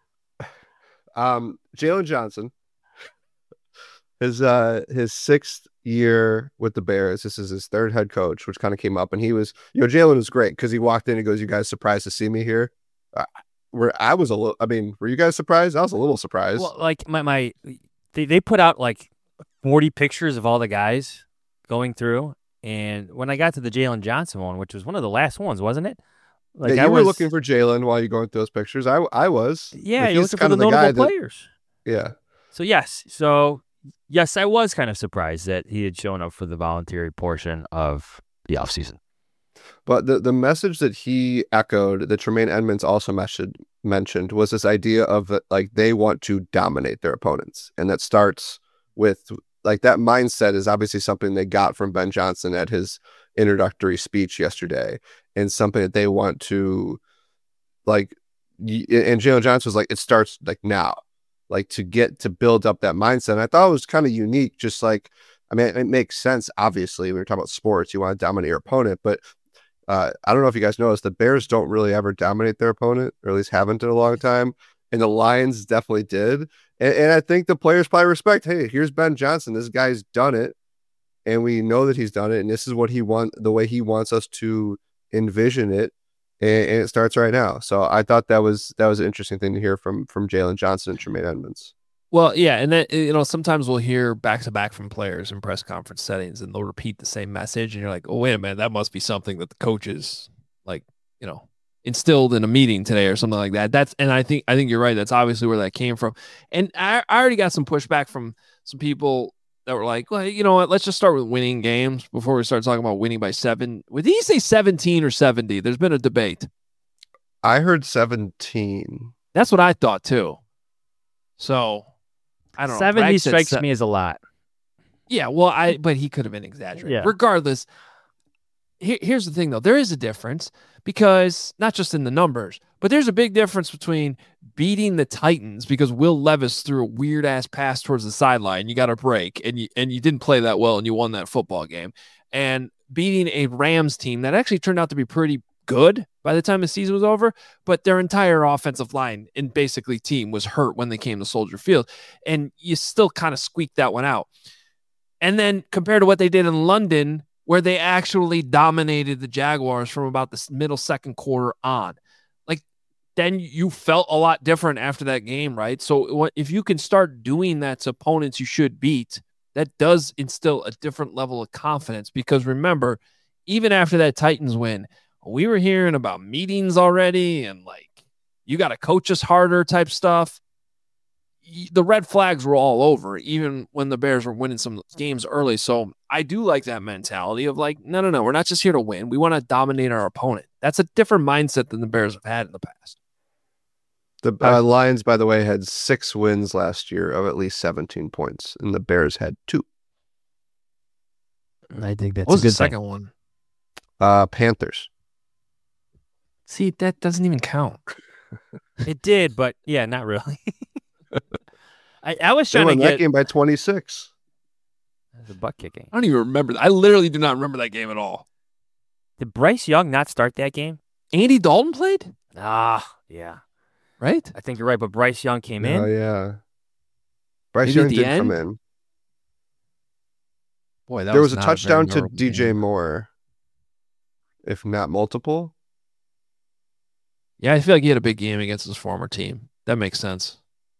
um, Jalen Johnson, his uh his sixth year with the Bears. This is his third head coach, which kind of came up, and he was, you know, Jalen was great because he walked in and goes, "You guys surprised to see me here?" Uh, where I was a little, I mean, were you guys surprised? I was a little surprised. Well, like my my, they they put out like forty pictures of all the guys going through, and when I got to the Jalen Johnson one, which was one of the last ones, wasn't it? Like yeah, you I were was looking for Jalen while you're going through those pictures. I I was. Yeah, Like, you're he's looking for kind the of the guy notable that- players. Yeah. So yes, so yes, I was kind of surprised that he had shown up for the voluntary portion of the offseason. But the, the message that he echoed, that Tremaine Edmonds also mentioned, mentioned was this idea of that, like, they want to dominate their opponents. And that starts with, like, that mindset is obviously something they got from Ben Johnson at his introductory speech yesterday, and something that they want to, like, y- and Jalen Johnson was like, it starts like now, like to get to build up that mindset. And I thought it was kind of unique, just like, I mean, it makes sense. Obviously, we were talking about sports, you want to dominate your opponent, but uh, I don't know if you guys noticed, the Bears don't really ever dominate their opponent, or at least haven't in a long time. And the Lions definitely did. And, and I think the players probably respect, hey, here's Ben Johnson. This guy's done it. And we know that he's done it. And this is what he want, the way he wants us to envision it. And, and it starts right now. So I thought that was, that was an interesting thing to hear from, from Jalen Johnson and Tremaine Edmonds. Well, yeah, and then, you know, sometimes we'll hear back to back from players in press conference settings, and they'll repeat the same message, and you're like, "Oh, wait a minute, that must be something that the coaches, like, you know, instilled in a meeting today or something like that." That's, and I think, I think you're right. That's obviously where that came from. And I, I already got some pushback from some people that were like, "Well, you know what? Let's just start with winning games before we start talking about winning by seven." Did he say seventeen or seventy? There's been a debate. I heard seventeen. That's what I thought too. So. I don't know. seventy Bragg said strikes se- me as a lot. Yeah, well, I but he could have been exaggerating. Yeah. Regardless, here, here's the thing, though. There is a difference because not just in the numbers, but there's a big difference between beating the Titans because Will Levis threw a weird ass pass towards the sideline. You got a break, and you and you didn't play that well, and you won that football game, and beating a Rams team that actually turned out to be pretty good by the time the season was over, but their entire offensive line and basically team was hurt when they came to Soldier Field, and you still kind of squeaked that one out. And then compared to what they did in London, where they actually dominated the Jaguars from about the middle second quarter on, like, then you felt a lot different after that game, right? So what if you can start doing that to opponents you should beat, that does instill a different level of confidence, because remember, even after that Titans win, we were hearing about meetings already and like, you got to coach us harder type stuff. The red flags were all over, even when the Bears were winning some games early. So I do like that mentality of like, no, no, no, we're not just here to win. We want to dominate our opponent. That's a different mindset than the Bears have had in the past. The uh, Lions, by the way, had six wins last year of at least seventeen points, and the Bears had two. I think that's What was a good the second thing. one? Uh, Panthers. See, that doesn't even count. It did, but yeah, not really. I, I was They trying to won that get game by twenty-six. the butt kicking. I don't even remember that. I literally do not remember that game at all. Did Bryce Young not start that game? Andy Dalton played, Ah, yeah. right? I think you're right, but Bryce Young came Oh, in. yeah. Bryce Maybe at Young the did come end? in. Boy, that There was a not touchdown very to memorable D J game. Moore, if not multiple. Yeah, I feel like he had a big game against his former team. That makes sense.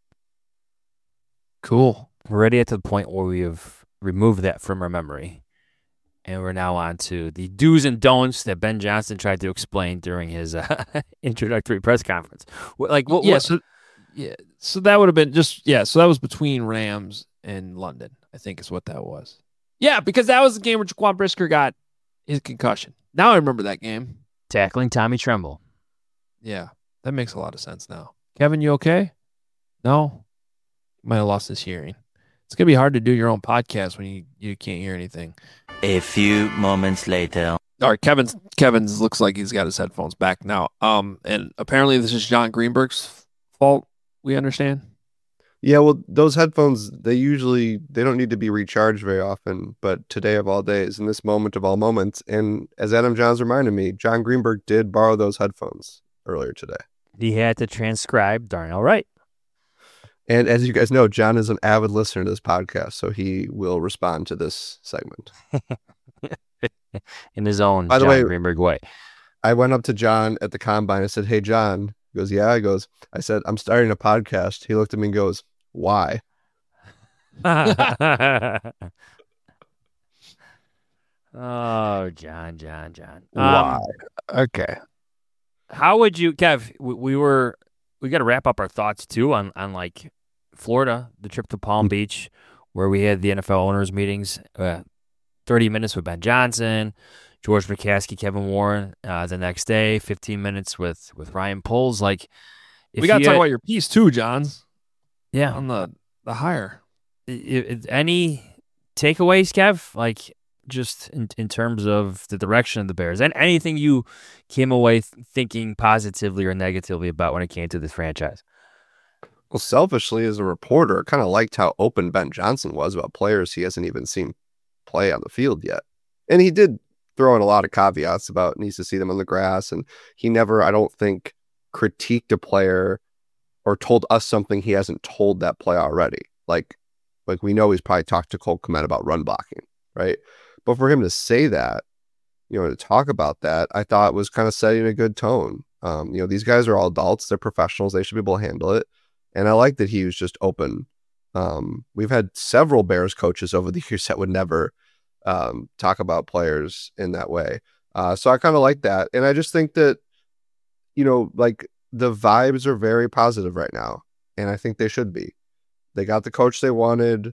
Cool. We're already at the point where we have removed that from our memory. And we're now on to the do's and don'ts that Ben Johnson tried to explain during his uh, introductory press conference. What, like, what? yeah, what- so yeah, so that would have been just yeah, so that was between Rams and London, I think is what that was. Yeah, because that was the game where Jaquan Brisker got his concussion. Now I remember that game. tackling Tommy Tremble. Yeah, that makes a lot of sense now. Kevin, you okay? No? Might have lost his hearing. It's gonna be hard to do your own podcast when you, you can't hear anything. A few moments later. All right, Kevin's Kevin's looks like he's got his headphones back now. Um, and apparently this is John Greenberg's fault. We understand. Yeah, well, those headphones, they usually, they don't need to be recharged very often, but today of all days, in this moment of all moments, and as Adam Johns reminded me, John Greenberg did borrow those headphones earlier today. He had to transcribe Darnell Wright. And as you guys know, John is an avid listener to this podcast, so he will respond to this segment. In his own By the John way, Greenberg way. I went up to John at the combine. I said, "Hey, John." He goes, "Yeah." He goes, I said, "I'm starting a podcast." He looked at me and goes, "Why?" Oh, John, John, John. Why? Um, Okay. how would you, Kev? We, we were we got to wrap up our thoughts too on on like Florida, the trip to Palm Beach, where we had the N F L owners meetings. Uh, Thirty minutes with Ben Johnson, George McCaskey, Kevin Warren. Uh, the next day, fifteen minutes with with Ryan Poles. Like, if We got to you talk had- about your piece too, Johns, yeah. on the the hire. I- I- any takeaways, Kev? Like, just in, in terms of the direction of the Bears, and anything you came away th- thinking positively or negatively about when it came to this franchise? Well, selfishly, as a reporter, I kind of liked how open Ben Johnson was about players he hasn't even seen play on the field yet. And he did throw in a lot of caveats about needs to see them on the grass. And he never, I don't think, critiqued a player or told us something he hasn't told that player already. Like, like we know he's probably talked to Cole Kmet about run blocking, right? But for him to say that, you know, to talk about that, I thought was kind of setting a good tone. Um, you know, these guys are all adults. They're professionals. They should be able to handle it. And I like that he was just open. Um, we've had several Bears coaches over the years that would never um, talk about players in that way. Uh, so I kind of like that. And I just think that, you know, like the vibes are very positive right now. And I think they should be. They got the coach they wanted.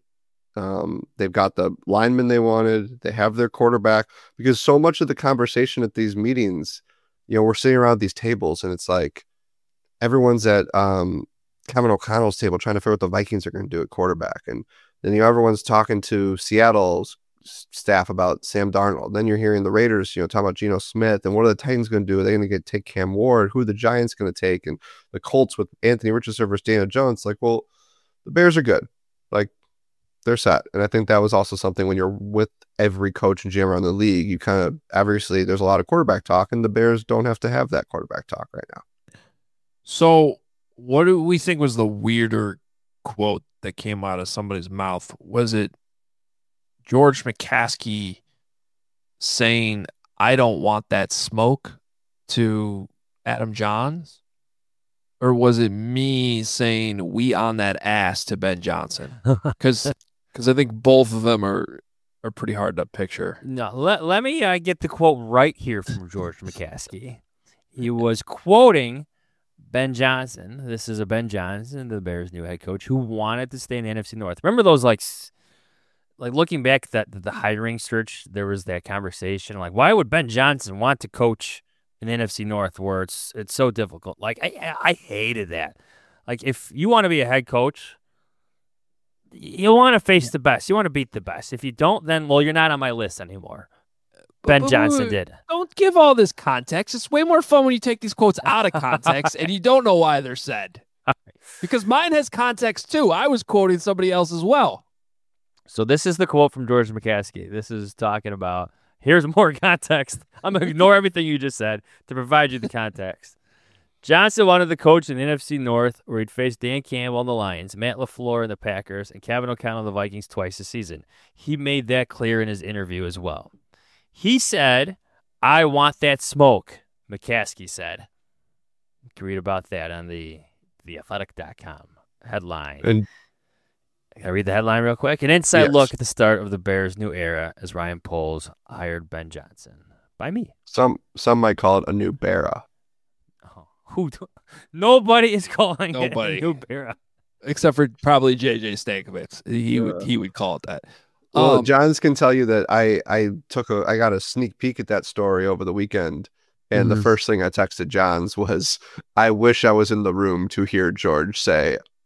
Um, they've got the lineman they wanted. They have their quarterback, because so much of the conversation at these meetings, you know, we're sitting around these tables and it's like everyone's at um, Kevin O'Connell's table trying to figure out what the Vikings are going to do at quarterback. And then, you know, everyone's talking to Seattle's staff about Sam Darnold. Then you're hearing the Raiders, you know, talking about Geno Smith and what are the Titans going to do? Are they going to get take Cam Ward? Who are the Giants going to take? And the Colts with Anthony Richardson versus Daniel Jones. Like, well, the Bears are good. Like, they're set. And I think that was also something when you're with every coach and G M around the league, you kind of, obviously there's a lot of quarterback talk, and the Bears don't have to have that quarterback talk right now. So what do we think was the weirder quote that came out of somebody's mouth? Was it George McCaskey saying, "I don't want that smoke" to Adam Johns? Or was it me saying, "We on that ass" to Ben Johnson? Because because I think both of them are are pretty hard to picture. No, let, let me uh, get the quote right here from George McCaskey. He was quoting Ben Johnson. This is a Ben Johnson, the Bears' new head coach, who wanted to stay in the N F C North. Remember those, like, like looking back at that the hiring search, there was that conversation, like, why would Ben Johnson want to coach in the N F C North where it's it's so difficult? Like, I I hated that. Like, if you want to be a head coach, you want to face the best. You want to beat the best. If you don't, then, well, you're not on my list anymore. Ben but, Johnson but, did. Don't give all this context. It's way more fun when you take these quotes out of context and you don't know why they're said. Because mine has context too. I was quoting somebody else as well. So this is the quote from George McCaskey. This is talking about, here's more context. I'm going to ignore everything you just said to provide you the context. Johnson wanted to coach in the N F C North, where he'd face Dan Campbell and the Lions, Matt LaFleur and the Packers, and Kevin O'Connell and the Vikings twice a season. He made that clear in his interview as well. He said, "I want that smoke," McCaskey said. You can read about that on the the athletic dot com headline. And Can I read the headline real quick? An inside Yes. look at the start of the Bears' new era as Ryan Poles hired Ben Johnson. By me. some some might call it a new Bera. Oh, who? do- Nobody is calling Nobody. it a new era. Except for probably J J Stankovic. He would he would call it that. Well, Um, Johns can tell you that I I took a I got a sneak peek at that story over the weekend, and Mhm. the first thing I texted Johns was, "I wish I was in the room to hear George say,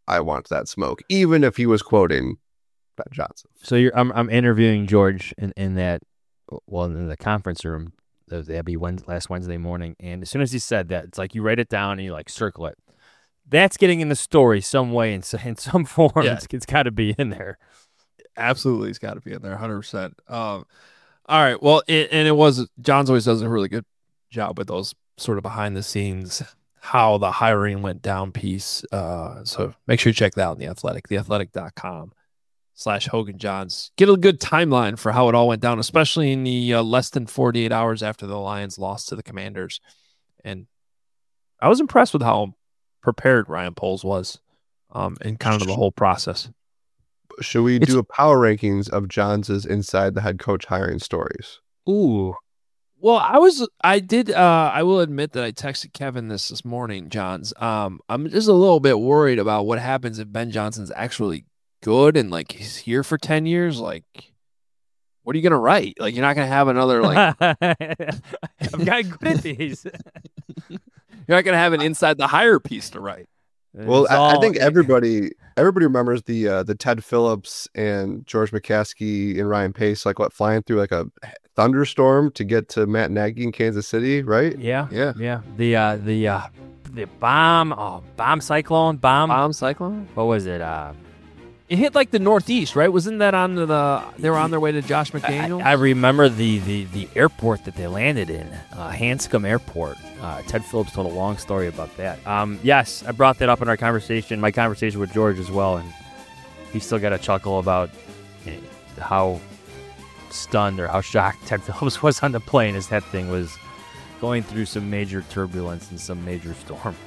I want that smoke, even if he was quoting Ben Johnson. So you're, I'm I'm interviewing George in, in that, well, in the conference room. That'd be Wednesday, last Wednesday morning, and as soon as he said that, it's like you write it down and you like circle it. That's getting in the story some way, in, in some form. Yeah. It's, it's got to be in there. Absolutely, it's got to be in there, one hundred percent. Um, all right, well, it, and it was John's always does a really good job with those sort of behind the scenes, how the hiring went down piece. Uh, so make sure you check that out in The Athletic, the athletic dot com slash Hogan Johns. Get a good timeline for how it all went down, especially in the uh, less than forty-eight hours after the Lions lost to the Commanders. And I was impressed with how prepared Ryan Poles was um, in kind of the whole process. Should we It's- do a power rankings of Johns' inside the head coach hiring stories? Ooh. Well, I was, I did, uh, I will admit that I texted Kevin this this morning, Johns. Um, I'm just a little bit worried about what happens if Ben Johnson's actually good and like he's here for ten years. Like, what are you going to write? Like, you're not going to have another, like, I've got good at these. you're not going to have an inside the hire piece to write. Well, It's I, I all- think everybody everybody remembers the uh, the Ted Phillips and George McCaskey and Ryan Pace, like what, flying through like a thunderstorm to get to Matt Nagy in Kansas City, right? Yeah, Yeah. yeah. The uh, the uh, the bomb, oh, bomb cyclone, bomb. Bomb cyclone? What was it? Uh, It hit like the Northeast, right? Wasn't that on the, they were on their way to Josh I, McDaniels? I remember the, the, the airport that they landed in, uh, Hanscom Airport. Uh, Ted Phillips told a long story about that. Um, yes, I brought that up in our conversation, my conversation with George as well, and he still got a chuckle about eh, how stunned or how shocked Ted Phillips was on the plane as that thing was going through some major turbulence and some major storm.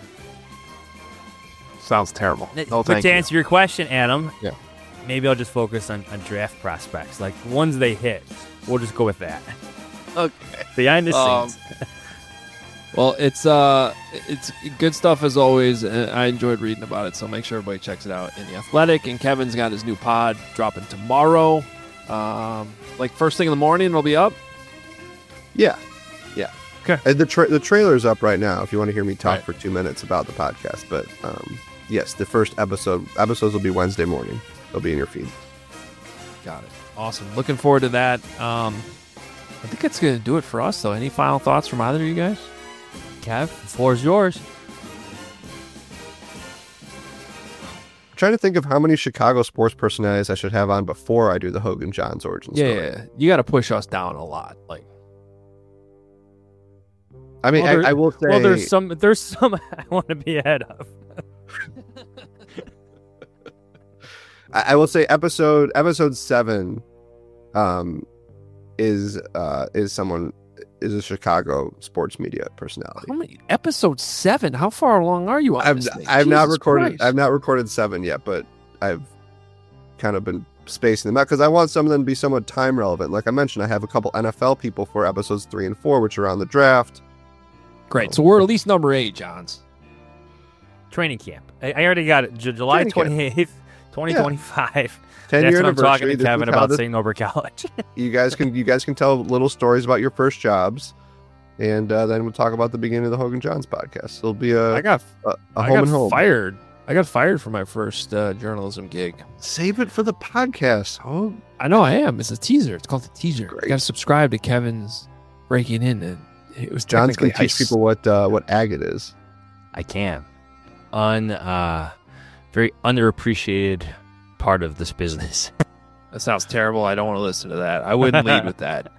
Sounds terrible. No, but thank to you. answer your question, Adam, Yeah. maybe I'll just focus on, on draft prospects. Like, once they hit, we'll just go with that. Okay. Behind the Um, scenes. Well, it's uh, it's good stuff as always. And I enjoyed reading about it, so make sure everybody checks it out in The Athletic. And Kevin's got his new pod dropping tomorrow. Um, like first thing in the morning, it'll be up. Yeah. Yeah. Okay. And the tra- the trailer's up right now if you want to hear me talk Right. for two minutes about the podcast. But um, yes, the first episode episodes will be Wednesday morning. They'll be in your feed. Got it. Awesome. Looking forward to that. Um, I think that's gonna do it for us, though. Any final thoughts from either of you guys? Kev, the floor is yours. I'm trying to think of how many Chicago sports personalities I should have on before I do the Hogan Johns origin Yeah, story. yeah. You got to push us down a lot. Like, I mean, Well, there- I, I will say. Well, there's some there's some I want to be ahead of. I, I will say episode episode seven, um, is uh is someone is a Chicago sports media personality. how many episode seven? How far along are you on I've this thing? I've not Jesus recorded Christ. I've not recorded seven yet, but I've kind of been spacing them out because I want some of them to be somewhat time relevant. Like I mentioned, I have a couple N F L people for episodes three and four, which are on the draft. Great. So we're at least number eight, Johns. Training camp. I, I already got it. J- July Training camp. twenty-eighth, twenty twenty-five. Ten That's year what I'm talking anniversary. to This Kevin is how about this- Saint Norbert College. you guys can you guys can tell little stories about your first jobs, and uh, then we'll talk about the beginning of the Hogan Johns podcast. It'll be a I got a, a I home got and home. fired. I got fired for my first uh, journalism gig. Save it for the podcast. Oh, I know I am. It's a teaser. It's called the teaser. Great. You got to subscribe to Kevin's Breaking In. And it was John's technically gonna teach I s- people what uh, what agate is. I can. Un, uh, very underappreciated part of this business. That sounds terrible. I don't want to listen to that. I wouldn't lead with that.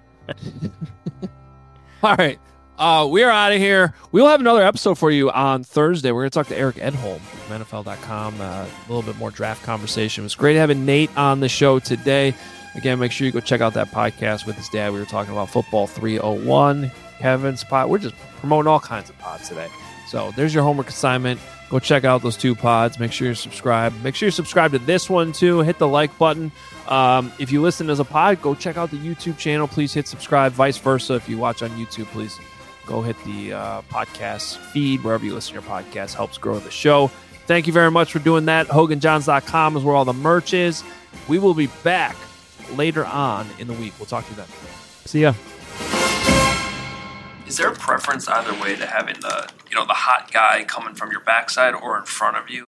All right. Uh, we are out of here. We'll have another episode for you on Thursday. We're going to talk to Eric Edholm from N F L dot com. Uh, a little bit more draft conversation. It was great having Nate on the show today. Again, make sure you go check out that podcast with his dad. We were talking about Football three oh one, Kevin's pod. We're just promoting all kinds of pods today. So there's your homework assignment. Go check out those two pods. Make sure you're subscribed. Make sure you're subscribed to this one, too. Hit the like button. Um, if you listen as a pod, go check out the YouTube channel. Please hit subscribe. Vice versa. If you watch on YouTube, please go hit the uh, podcast feed wherever you listen to your podcast. Helps grow the show. Thank you very much for doing that. Hogan Johns dot com is where all the merch is. We will be back later on in the week. We'll talk to you then. See ya. Is there a preference either way to having the, you know, the hot guy coming from your backside or in front of you?